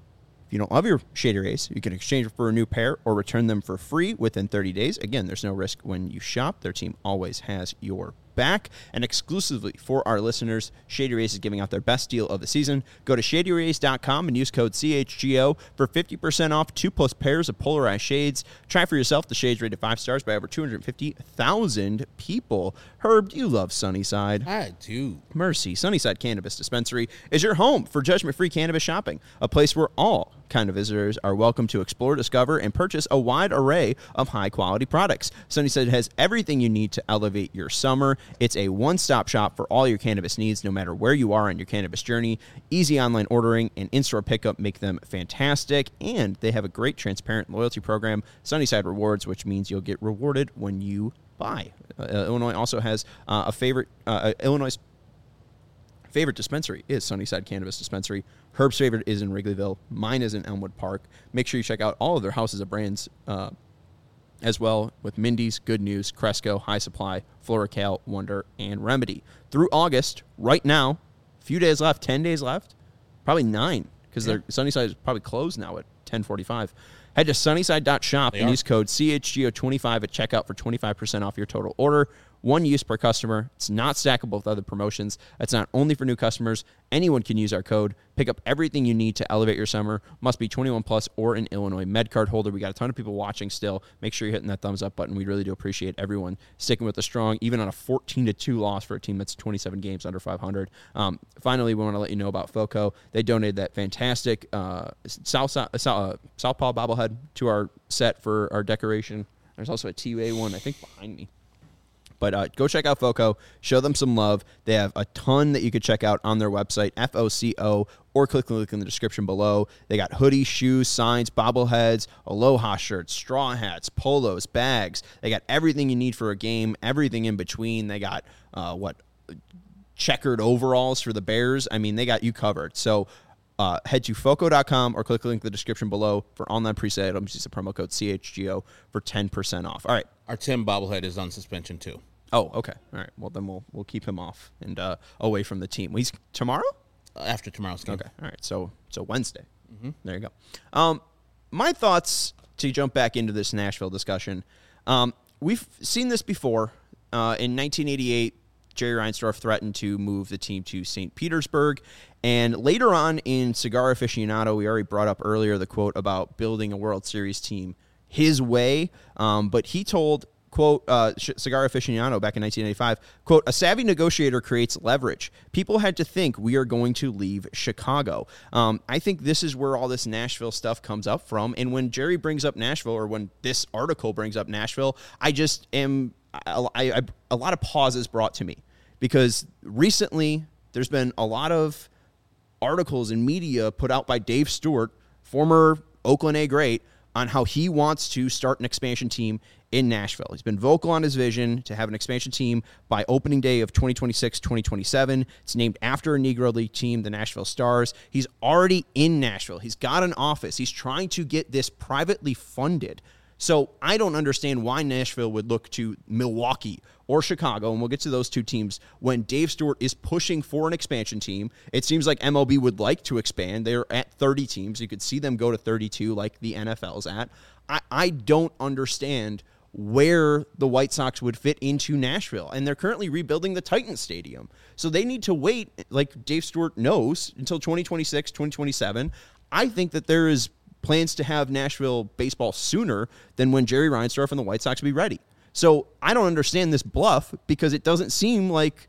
If you don't love your Shady Rays, you can exchange it for a new pair or return them for free within thirty days. Again, there's no risk when you shop. Their team always has your back. And exclusively for our listeners, Shady Rays is giving out their best deal of the season. Go to shady rays dot com and use code C H G O for fifty percent off two plus pairs of polarized shades. Try for yourself. The shades rated five stars by over two hundred fifty thousand people. Herb, do you love Sunnyside? I do. Mercy. Sunnyside Cannabis Dispensary is your home for judgment-free cannabis shopping, a place where all kind of visitors are welcome to explore, discover, and purchase a wide array of high-quality products. Sunnyside has everything you need to elevate your summer. It's a one-stop shop for all your cannabis needs, no matter where you are on your cannabis journey. Easy online ordering and in-store pickup make them fantastic, and they have a great transparent loyalty program, Sunnyside Rewards, which means you'll get rewarded when you buy. Uh, Illinois also has uh, a favorite, uh, Illinois' favorite dispensary is Sunnyside Cannabis Dispensary. Herb's favorite is in Wrigleyville. Mine is in Elmwood Park. Make sure you check out all of their houses of brands uh, as well with Mindy's, Good News, Cresco, High Supply, FloraCal, Wonder, and Remedy. Through August, right now, a few days left, ten days left, probably nine, because yeah. their Sunnyside is probably closed now at ten forty-five. Head to sunnyside dot shop and use code C H G O twenty-five at checkout for twenty-five percent off your total order. One use per customer. It's not stackable with other promotions. It's not only for new customers. Anyone can use our code. Pick up everything you need to elevate your summer. Must be twenty-one plus or an Illinois MedCard holder. We got a ton of people watching still. Make sure you're hitting that thumbs up button. We really do appreciate everyone sticking with the strong, even on a fourteen to two loss for a team that's twenty-seven games under five hundred. Um, finally, we want to let you know about FOCO. They donated that fantastic uh, South, uh, Southpaw bobblehead to our set for our decoration. There's also a T U A one, I think, behind me. But uh, go check out FOCO. Show them some love. They have a ton that you could check out on their website, F O C O, or click the link in the description below. They got hoodies, shoes, signs, bobbleheads, Aloha shirts, straw hats, polos, bags. They got everything you need for a game, everything in between. They got, uh, what, checkered overalls for the Bears. I mean, they got you covered. So uh, head to foco dot com or click the link in the description below for online presale items. Use the promo code C H G O for ten percent off. All right. Our Tim bobblehead is on suspension, too. Oh, okay. All right. Well, then we'll we'll keep him off and uh, away from the team. He's tomorrow? Uh, after tomorrow's game. Okay. All right. So so Wednesday. Mm-hmm. There you go. Um, my thoughts to jump back into this Nashville discussion. Um, we've seen this before. Uh, in nineteen eighty-eight, Jerry Reinsdorf threatened to move the team to Saint Petersburg. And later on in Cigar Aficionado, we already brought up earlier the quote about building a World Series team his way. Um, but he told... Quote, uh, Cigar Aficionado back in nineteen eighty-five, quote, a savvy negotiator creates leverage. People had to think we are going to leave Chicago. Um, I think this is where all this Nashville stuff comes up from. And when Jerry brings up Nashville, or when this article brings up Nashville, I just am, I, I, a lot of pauses brought to me. Because recently, there's been a lot of articles and media put out by Dave Stewart, former Oakland A great, on how he wants to start an expansion team in Nashville. He's been vocal on his vision to have an expansion team by opening day of twenty twenty-six twenty twenty-seven. It's named after a Negro League team, the Nashville Stars. He's already in Nashville. He's got an office. He's trying to get this privately funded. So I don't understand why Nashville would look to Milwaukee or Chicago, and we'll get to those two teams, when Dave Stewart is pushing for an expansion team. It seems like M L B would like to expand. They're at thirty teams. You could see them go to thirty-two like the N F L's at. I, I don't understand where the White Sox would fit into Nashville. And they're currently rebuilding the Titans Stadium. So they need to wait, like Dave Stewart knows, until twenty twenty-six, twenty twenty-seven. I think that there is plans to have Nashville baseball sooner than when Jerry Reinsdorf and the White Sox will be ready. So I don't understand this bluff because it doesn't seem like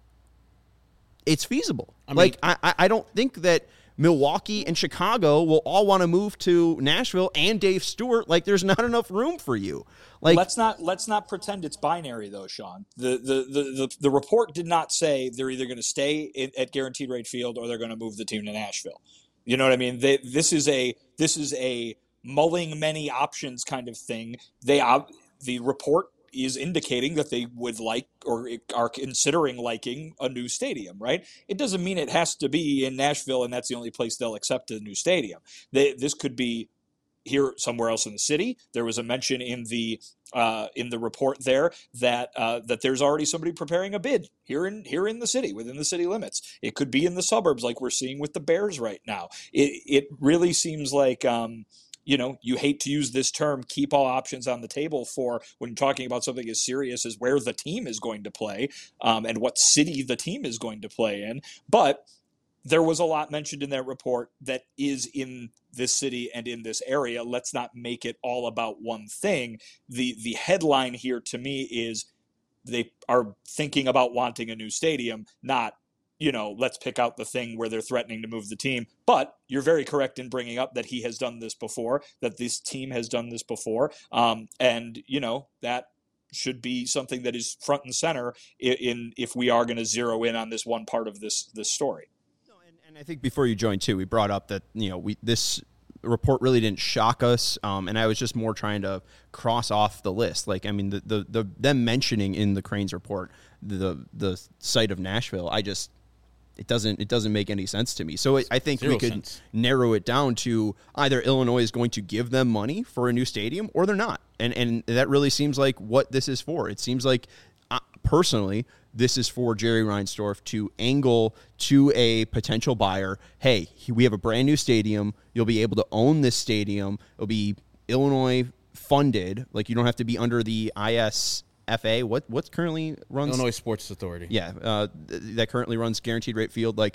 it's feasible. I mean, like, I, I don't think that Milwaukee and Chicago will all want to move to Nashville and Dave Stewart. Like, there's not enough room for you. Like, let's not let's not pretend it's binary though, Sean. The the the the, the report did not say they're either going to stay in, at Guaranteed Rate Field or they're going to move the team to Nashville. You know what I mean? They, this is a this is a mulling many options kind of thing. They uh, the report is indicating that they would like or are considering liking a new stadium, right? It doesn't mean it has to be in Nashville and that's the only place they'll accept a new stadium. They, this could be here somewhere else in the city. There was a mention in the uh, in the report there that uh, that there's already somebody preparing a bid here in here in the city, within the city limits. It could be in the suburbs, like we're seeing with the Bears right now. It it really seems like um, you know, you hate to use this term, keep all options on the table, for when you're talking about something as serious as where the team is going to play um, and what city the team is going to play in, but there was a lot mentioned in that report that is in this city and in this area. Let's not make it all about one thing. The the headline here to me is they are thinking about wanting a new stadium, not, you know, let's pick out the thing where they're threatening to move the team. But you're very correct in bringing up that he has done this before, that this team has done this before. Um, and, you know, that should be something that is front and center in, in if we are going to zero in on this one part of this this story. And I think before you joined too, we brought up that, you know, we this report really didn't shock us, um, and I was just more trying to cross off the list. Like, I mean, the the, the them mentioning in the Cranes report the the site of Nashville, I just it doesn't it doesn't make any sense to me. So I, I think Zero we could sense. narrow it down to either Illinois is going to give them money for a new stadium or they're not, and and that really seems like what this is for. It seems like, uh, personally, this is for Jerry Reinsdorf to angle to a potential buyer, hey, we have a brand new stadium. You'll be able to own this stadium. It'll be Illinois funded. Like, you don't have to be under the I S F A. What what's currently runs? Illinois Sports Authority. Yeah, uh, th- that currently runs Guaranteed Rate Field. Like,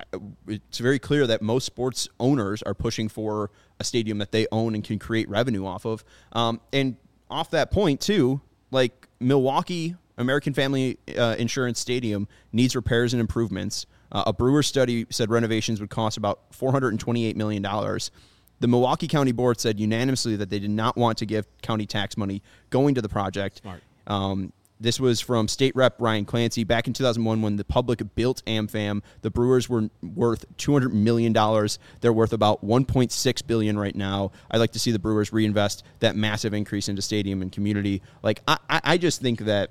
it's very clear that most sports owners are pushing for a stadium that they own and can create revenue off of. Um, and off that point, too, like, Milwaukee American Family uh, Insurance Stadium needs repairs and improvements. Uh, a Brewers study said renovations would cost about four hundred twenty-eight million dollars. The Milwaukee County Board said unanimously that they did not want to give county tax money going to the project. Smart. Um, this was from State Rep Ryan Clancy. Back in two thousand one, when the public built AmFam, the Brewers were worth two hundred million dollars. They're worth about one point six billion dollars right now. I'd like to see the Brewers reinvest that massive increase into stadium and community. Like, I, I just think that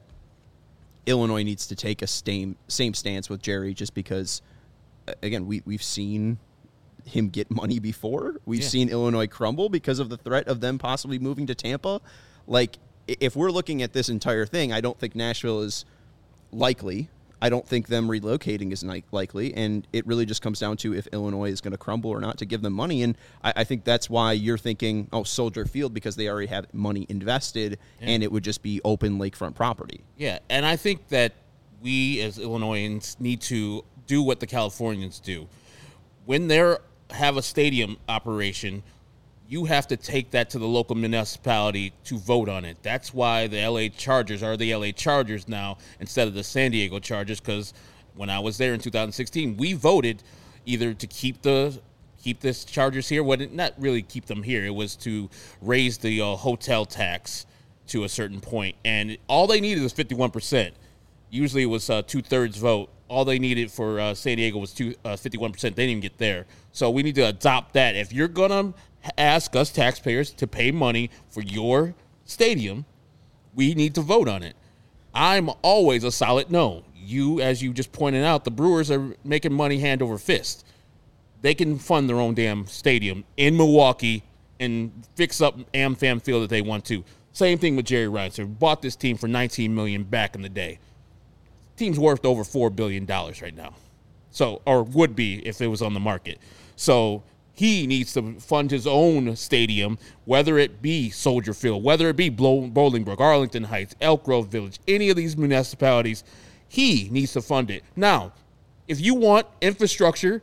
Illinois needs to take a same same stance with Jerry, just because, again, we, we've seen him get money before. We've yeah. seen Illinois crumble because of the threat of them possibly moving to Tampa. Like, if we're looking at this entire thing, I don't think Nashville is likely. I don't think them relocating is likely, and it really just comes down to if Illinois is going to crumble or not to give them money. And I, I think that's why you're thinking, oh, Soldier Field, because they already have money invested, yeah. and it would just be open lakefront property. Yeah, and I think that we as Illinoisans need to do what the Californians do. When they have a stadium operation, you have to take that to the local municipality to vote on it. That's why the L A Chargers are the L A Chargers now instead of the San Diego Chargers, because when I was there in two thousand sixteen, we voted either to keep the keep this Chargers here, well, not really keep them here. It was to raise the uh, hotel tax to a certain point, and all they needed was fifty-one percent. Usually it was a two-thirds vote. All they needed for uh, San Diego was two, uh, fifty-one percent. They didn't even get there. So we need to adopt that. If you're going to ask us taxpayers to pay money for your stadium, we need to vote on it. I'm always a solid no. You, as you just pointed out, the Brewers are making money hand over fist. They can fund their own damn stadium in Milwaukee and fix up AmFam Field if they want to. Same thing with Jerry Reinsdorf. Bought this team for nineteen million dollars back in the day. Team's worth over four billion dollars right now. So, or would be if it was on the market. So he needs to fund his own stadium, whether it be Soldier Field, whether it be Bolingbrook, Arlington Heights, Elk Grove Village, any of these municipalities. He needs to fund it. Now, if you want infrastructure,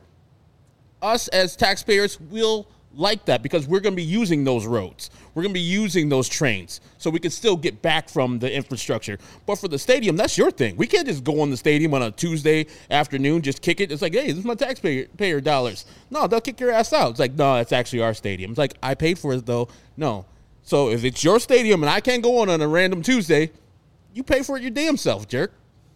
us as taxpayers will like that because we're going to be using those roads. We're going to be using those trains so we can still get back from the infrastructure. But for the stadium, that's your thing. We can't just go on the stadium on a Tuesday afternoon, just kick it. It's like, hey, this is my taxpayer payer dollars. No, they'll kick your ass out. It's like, no, it's actually our stadium. It's like, I paid for it, though. No. So if it's your stadium and I can't go on on a random Tuesday, you pay for it your damn self, jerk.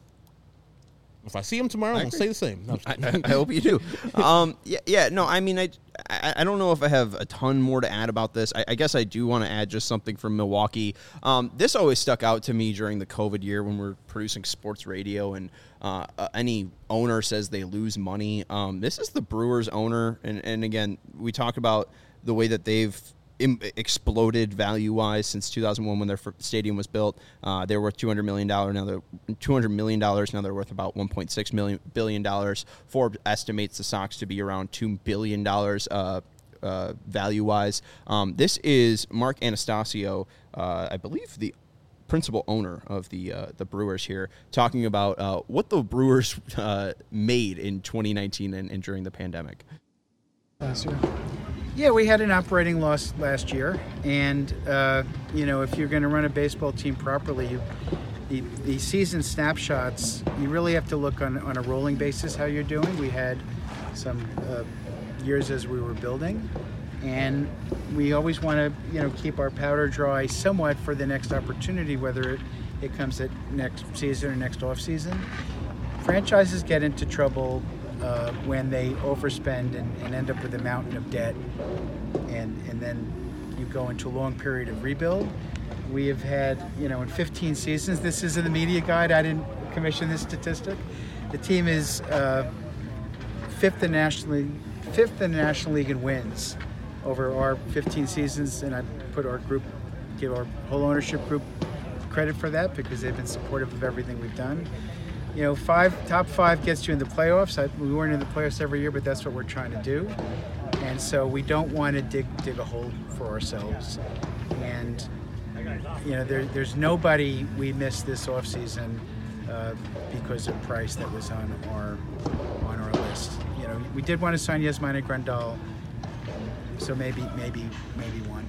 If I see him tomorrow, I'm going to say the same. No, I, I hope you do. Um, yeah, yeah, no, I mean, I, I, I don't know if I have a ton more to add about this. I, I guess I do want to add just something from Milwaukee. Um, this always stuck out to me during the COVID year when we're producing sports radio and uh, uh, any owner says they lose money. Um, this is the Brewers owner. And, and again, we talk about the way that they've Im- exploded value-wise since two thousand one when their stadium was built. Uh, they were worth two hundred million dollars. Now they're two hundred million dollars. Now they're worth about one point six billion dollars. Forbes estimates the Sox to be around two billion dollars uh, uh, value-wise. Um, this is Mark Anastasio, uh, I believe the principal owner of the uh, the Brewers here, talking about uh, what the Brewers uh, made in twenty nineteen and, and during the pandemic. Last year. Yeah, we had an operating loss last year, and uh, you know, if you're going to run a baseball team properly, you, the, the season snapshots, you really have to look on, on a rolling basis how you're doing. We had some uh, years as we were building, and we always want to, you know, keep our powder dry somewhat for the next opportunity, whether it, it comes at next season or next off season. Franchises get into trouble Uh, when they overspend and, and end up with a mountain of debt, and and then you go into a long period of rebuild. We have had, you know, in fifteen seasons, this is in the media guide, I didn't commission this statistic, the team is uh, fifth in National League, fifth in the National League in wins over our fifteen seasons, and I put our group, give our whole ownership group credit for that because they've been supportive of everything we've done. You know, five top five gets you in the playoffs. I, we weren't in the playoffs every year, but that's what we're trying to do. And so we don't want to dig dig a hole for ourselves. And you know, there, there's nobody we missed this offseason uh, because of price that was on our on our list. You know, we did want to sign Yasmani Grandal, so maybe maybe maybe one.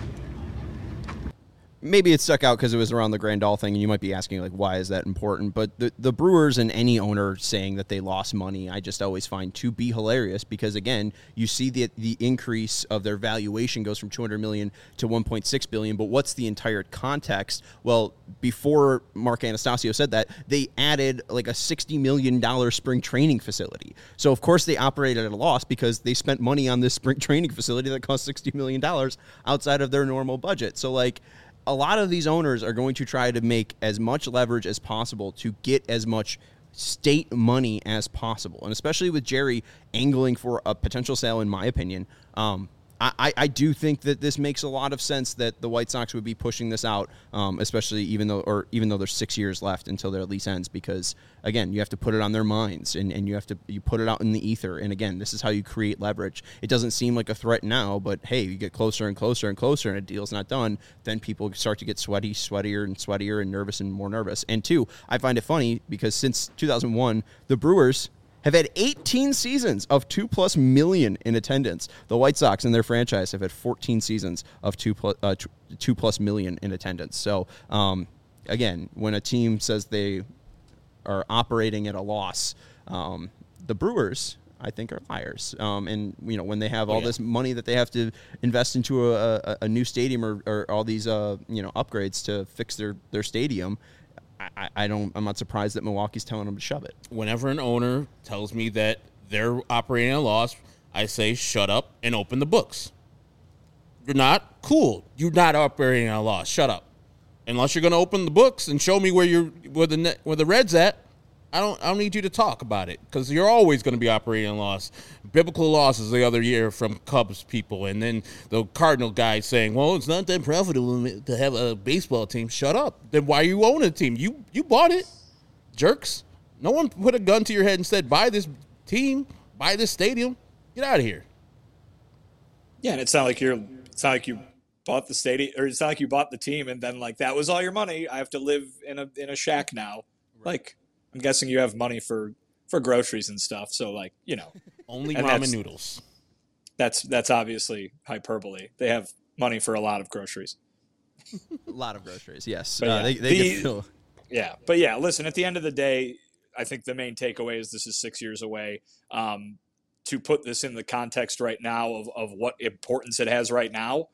Maybe it stuck out because it was around the Grandal thing, and you might be asking, like, why is that important? But the, the Brewers and any owner saying that they lost money, I just always find to be hilarious because, again, you see the the increase of their valuation goes from two hundred million dollars to one point six billion dollars, but what's the entire context? Well, before Mark Anastasio said that, they added, like, a sixty million dollars spring training facility. So, of course, they operated at a loss because they spent money on this spring training facility that cost sixty million dollars outside of their normal budget. So, like, a lot of these owners are going to try to make as much leverage as possible to get as much state money as possible. And especially with Jerry angling for a potential sale, in my opinion, um, I, I do think that this makes a lot of sense that the White Sox would be pushing this out, um, especially even though or even though there's six years left until their lease ends, because again, you have to put it on their minds and, and you have to you put it out in the ether. And again, this is how you create leverage. It doesn't seem like a threat now, but hey, you get closer and closer and closer and a deal's not done, then people start to get sweaty, sweatier and sweatier and nervous and more nervous. And two, I find it funny because since two thousand one, the Brewers have had eighteen seasons of two plus million in attendance. The White Sox and their franchise have had fourteen seasons of two plus, uh, two plus million in attendance. So, um, again, when a team says they are operating at a loss, um, the Brewers, I think, are liars. Um, and, you know, when they have all oh, yeah. this money that they have to invest into a, a, a new stadium or, or all these, uh, you know, upgrades to fix their, their stadium, I, I don't. I'm not surprised that Milwaukee's telling them to shove it. Whenever an owner tells me that they're operating at a loss, I say shut up and open the books. You're not? Cool. You're not operating at a loss. Shut up. Unless you're going to open the books and show me where you're where the net, where the Red's at, I don't I don't need you to talk about it because you're always going to be operating at a loss. Biblical losses the other year from Cubs people, and then the Cardinal guy saying, "Well, it's not that profitable to have a baseball team." Shut up. Then why you own a team? You you bought it, jerks. No one put a gun to your head and said, "Buy this team, buy this stadium, get out of here." Yeah, and it's not like you're. It's not like you bought the stadium, or it's not like you bought the team and then like that was all your money. I have to live in a in a shack now. Right. Like I'm guessing you have money for, for groceries and stuff. So like you know, only ramen noodles. That's that's obviously hyperbole. They have money for a lot of groceries. A lot of groceries, yes. But uh, yeah, they they the, get feel. Yeah, but yeah, listen. At the end of the day, I think the main takeaway is this is six years away. Um, to put this in the context right now of, of what importance it has right now,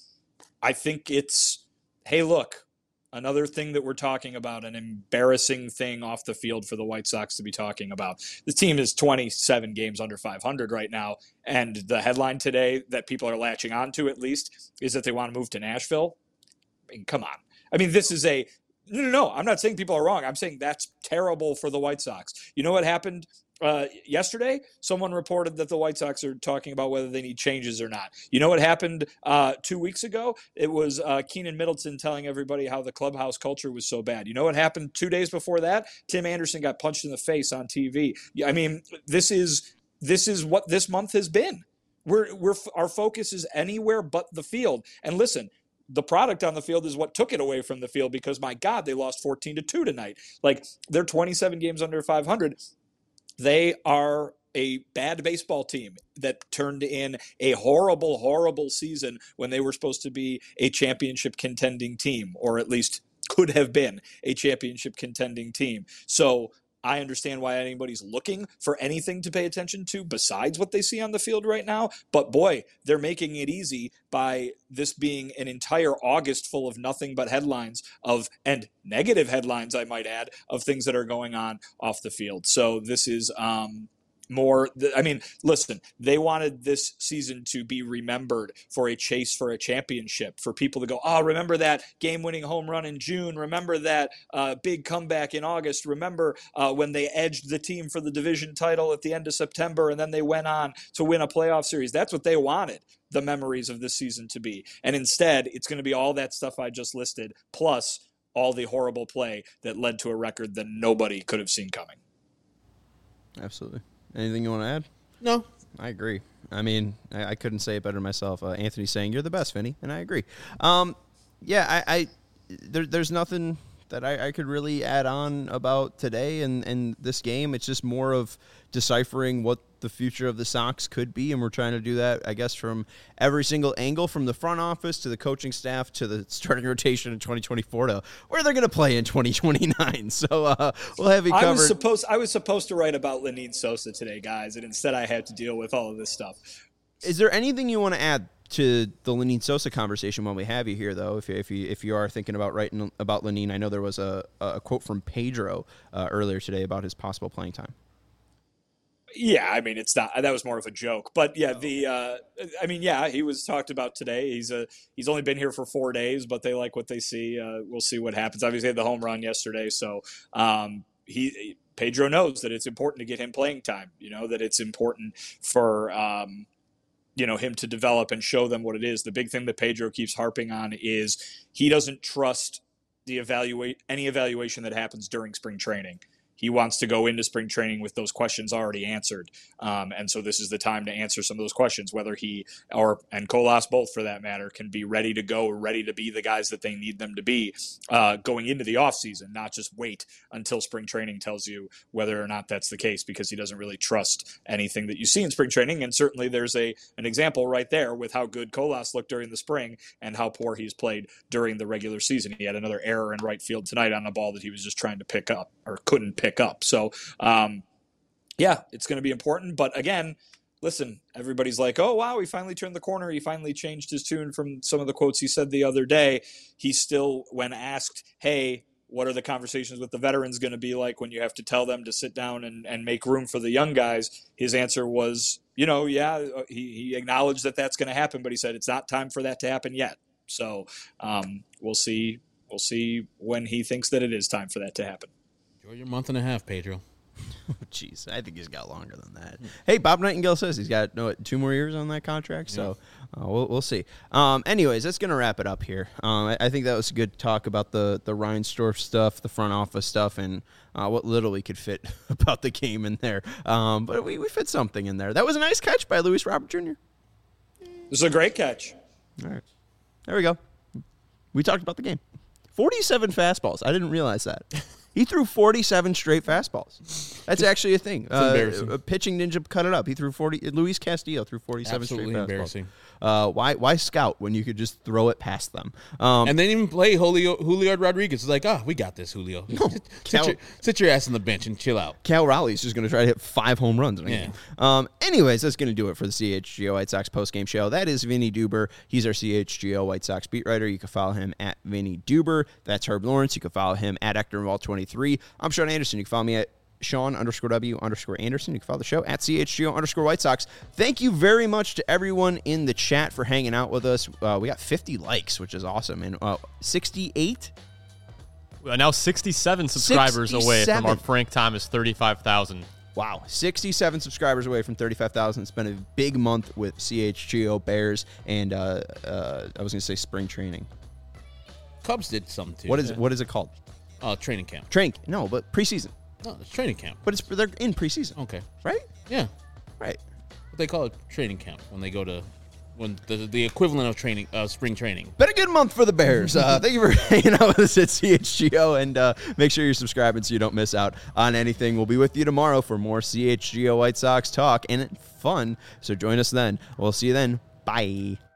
I think it's, hey, look, another thing that we're talking about, an embarrassing thing off the field for the White Sox to be talking about. The team is twenty-seven games under five hundred right now, and the headline today that people are latching onto at least is that they want to move to Nashville. I mean, come on. I mean, this is a no, no, no. I'm not saying people are wrong. I'm saying that's terrible for the White Sox. You know what happened uh, yesterday? Someone reported that the White Sox are talking about whether they need changes or not. You know what happened uh, two weeks ago? It was uh, Keenan Middleton telling everybody how the clubhouse culture was so bad. You know what happened two days before that? Tim Anderson got punched in the face on T V. I mean, this is this is what this month has been. We're we're our focus is anywhere but the field. And listen, the product on the field is what took it away from the field because, my God, they lost fourteen to two tonight. Like, they're twenty-seven games under five hundred. They are a bad baseball team that turned in a horrible, horrible season when they were supposed to be a championship contending team, or at least could have been a championship contending team. So I understand why anybody's looking for anything to pay attention to besides what they see on the field right now. But boy, they're making it easy by this being an entire August full of nothing but headlines of, and negative headlines, I might add, of things that are going on off the field. So this is, um, more, I mean, listen, they wanted this season to be remembered for a chase for a championship, for people to go, oh, remember that game-winning home run in June, remember that uh, big comeback in August, remember uh, when they edged the team for the division title at the end of September, and then they went on to win a playoff series. That's what they wanted the memories of this season to be. And instead, it's going to be all that stuff I just listed, plus all the horrible play that led to a record that nobody could have seen coming. Absolutely. Anything you want to add? No. I agree. I mean, I, I couldn't say it better myself. Uh, Anthony's saying, you're the best, Vinny, and I agree. Um, yeah, I, I there, there's nothing that I, I could really add on about today and, and this game. It's just more of deciphering what the future of the Sox could be, and we're trying to do that, I guess, from every single angle, from the front office to the coaching staff to the starting rotation in twenty twenty-four to where they're going to play in twenty twenty-nine. So uh, we'll have you covered. I was supposed I was supposed to write about Lenyn Sosa today, guys, and instead I had to deal with all of this stuff. Is there anything you want to add to the Lenyn Sosa conversation when we have you here, though? If you, if you if you are thinking about writing about Lenyn, I know there was a, a quote from Pedro uh, earlier today about his possible playing time. Yeah, I mean, it's not, that was more of a joke, but yeah, the, uh, I mean, yeah, he was talked about today. He's a, he's only been here for four days, but they like what they see. Uh, we'll see what happens. Obviously, he had the home run yesterday. So, um, he, Pedro knows that it's important to get him playing time, you know, that it's important for, um, you know, him to develop and show them what it is. The big thing that Pedro keeps harping on is he doesn't trust the evaluate any evaluation that happens during spring training. He wants to go into spring training with those questions already answered. Um, and so this is the time to answer some of those questions, whether he or and Colas both for that matter can be ready to go, ready to be the guys that they need them to be uh, going into the offseason, not just wait until spring training tells you whether or not that's the case, because he doesn't really trust anything that you see in spring training. And certainly there's a an example right there with how good Colas looked during the spring and how poor he's played during the regular season. He had another error in right field tonight on a ball that he was just trying to pick up or couldn't pick up. So, um, yeah, it's going to be important. But again, listen, everybody's like, oh, wow, he finally turned the corner. He finally changed his tune from some of the quotes he said the other day. He still, when asked, hey, what are the conversations with the veterans going to be like when you have to tell them to sit down and, and make room for the young guys? His answer was you know, yeah, he, he acknowledged that that's going to happen, but he said it's not time for that to happen yet. So um, we'll see. We'll see when he thinks that it is time for that to happen. Enjoy your month and a half, Pedro. Jeez, I think he's got longer than that. Hey, Bob Nightingale says he's got no two more years on that contract, so uh, we'll we'll see. Um, anyways, that's gonna wrap it up here. Um, I, I think that was a good talk about the the Reinsdorf stuff, the front office stuff, and uh, what little we could fit about the game in there. Um, but we we fit something in there. That was a nice catch by Luis Robert Junior This is a great catch. All right, there we go. We talked about the game. forty-seven fastballs. I didn't realize that. He threw forty-seven straight fastballs. That's actually a thing. It's embarrassing. Uh, a pitching ninja cut it up. He threw forty. Luis Castillo threw forty-seven Absolutely straight fastballs. embarrassing. Uh, why why scout when you could just throw it past them? Um, And they didn't even play Julio, Julio Rodriguez. It's like, oh, we got this, Julio. sit, Cal- your, sit your ass on the bench and chill out. Cal Raleigh's just going to try to hit five home runs in a Yeah. game. Um, anyways, that's going to do it for the C H G O White Sox postgame show. That is Vinny Duber. He's our C H G O White Sox beat writer. You can follow him at Vinny Duber. That's Herb Lawrence. You can follow him at Hector Involve twenty-three. I'm Sean Anderson. You can follow me at Sean underscore W underscore Anderson. You can follow the show at C H G O underscore White Sox. Thank you very much to everyone in the chat for hanging out with us. Uh, we got fifty likes, which is awesome. And uh, sixty-eight? We are now sixty-seven subscribers away from our sixty-seven. Frank Thomas thirty-five thousand. Wow, sixty-seven subscribers away from thirty-five thousand. It's been a big month with C H G O Bears and uh, uh, I was going to say spring training. Cubs did something too. What is it? What is it called? Oh, training camp. Training? No, but preseason. No, it's training camp. But it's they're in preseason, Okay. right? Yeah. Right. What they call it training camp when they go to when the the equivalent of training uh, spring training. Been a good month for the Bears. Uh, thank you for hanging out with us at C H G O, and uh, make sure you're subscribing so you don't miss out on anything. We'll be with you tomorrow for more C H G O White Sox talk and fun. So join us then. We'll see you then. Bye.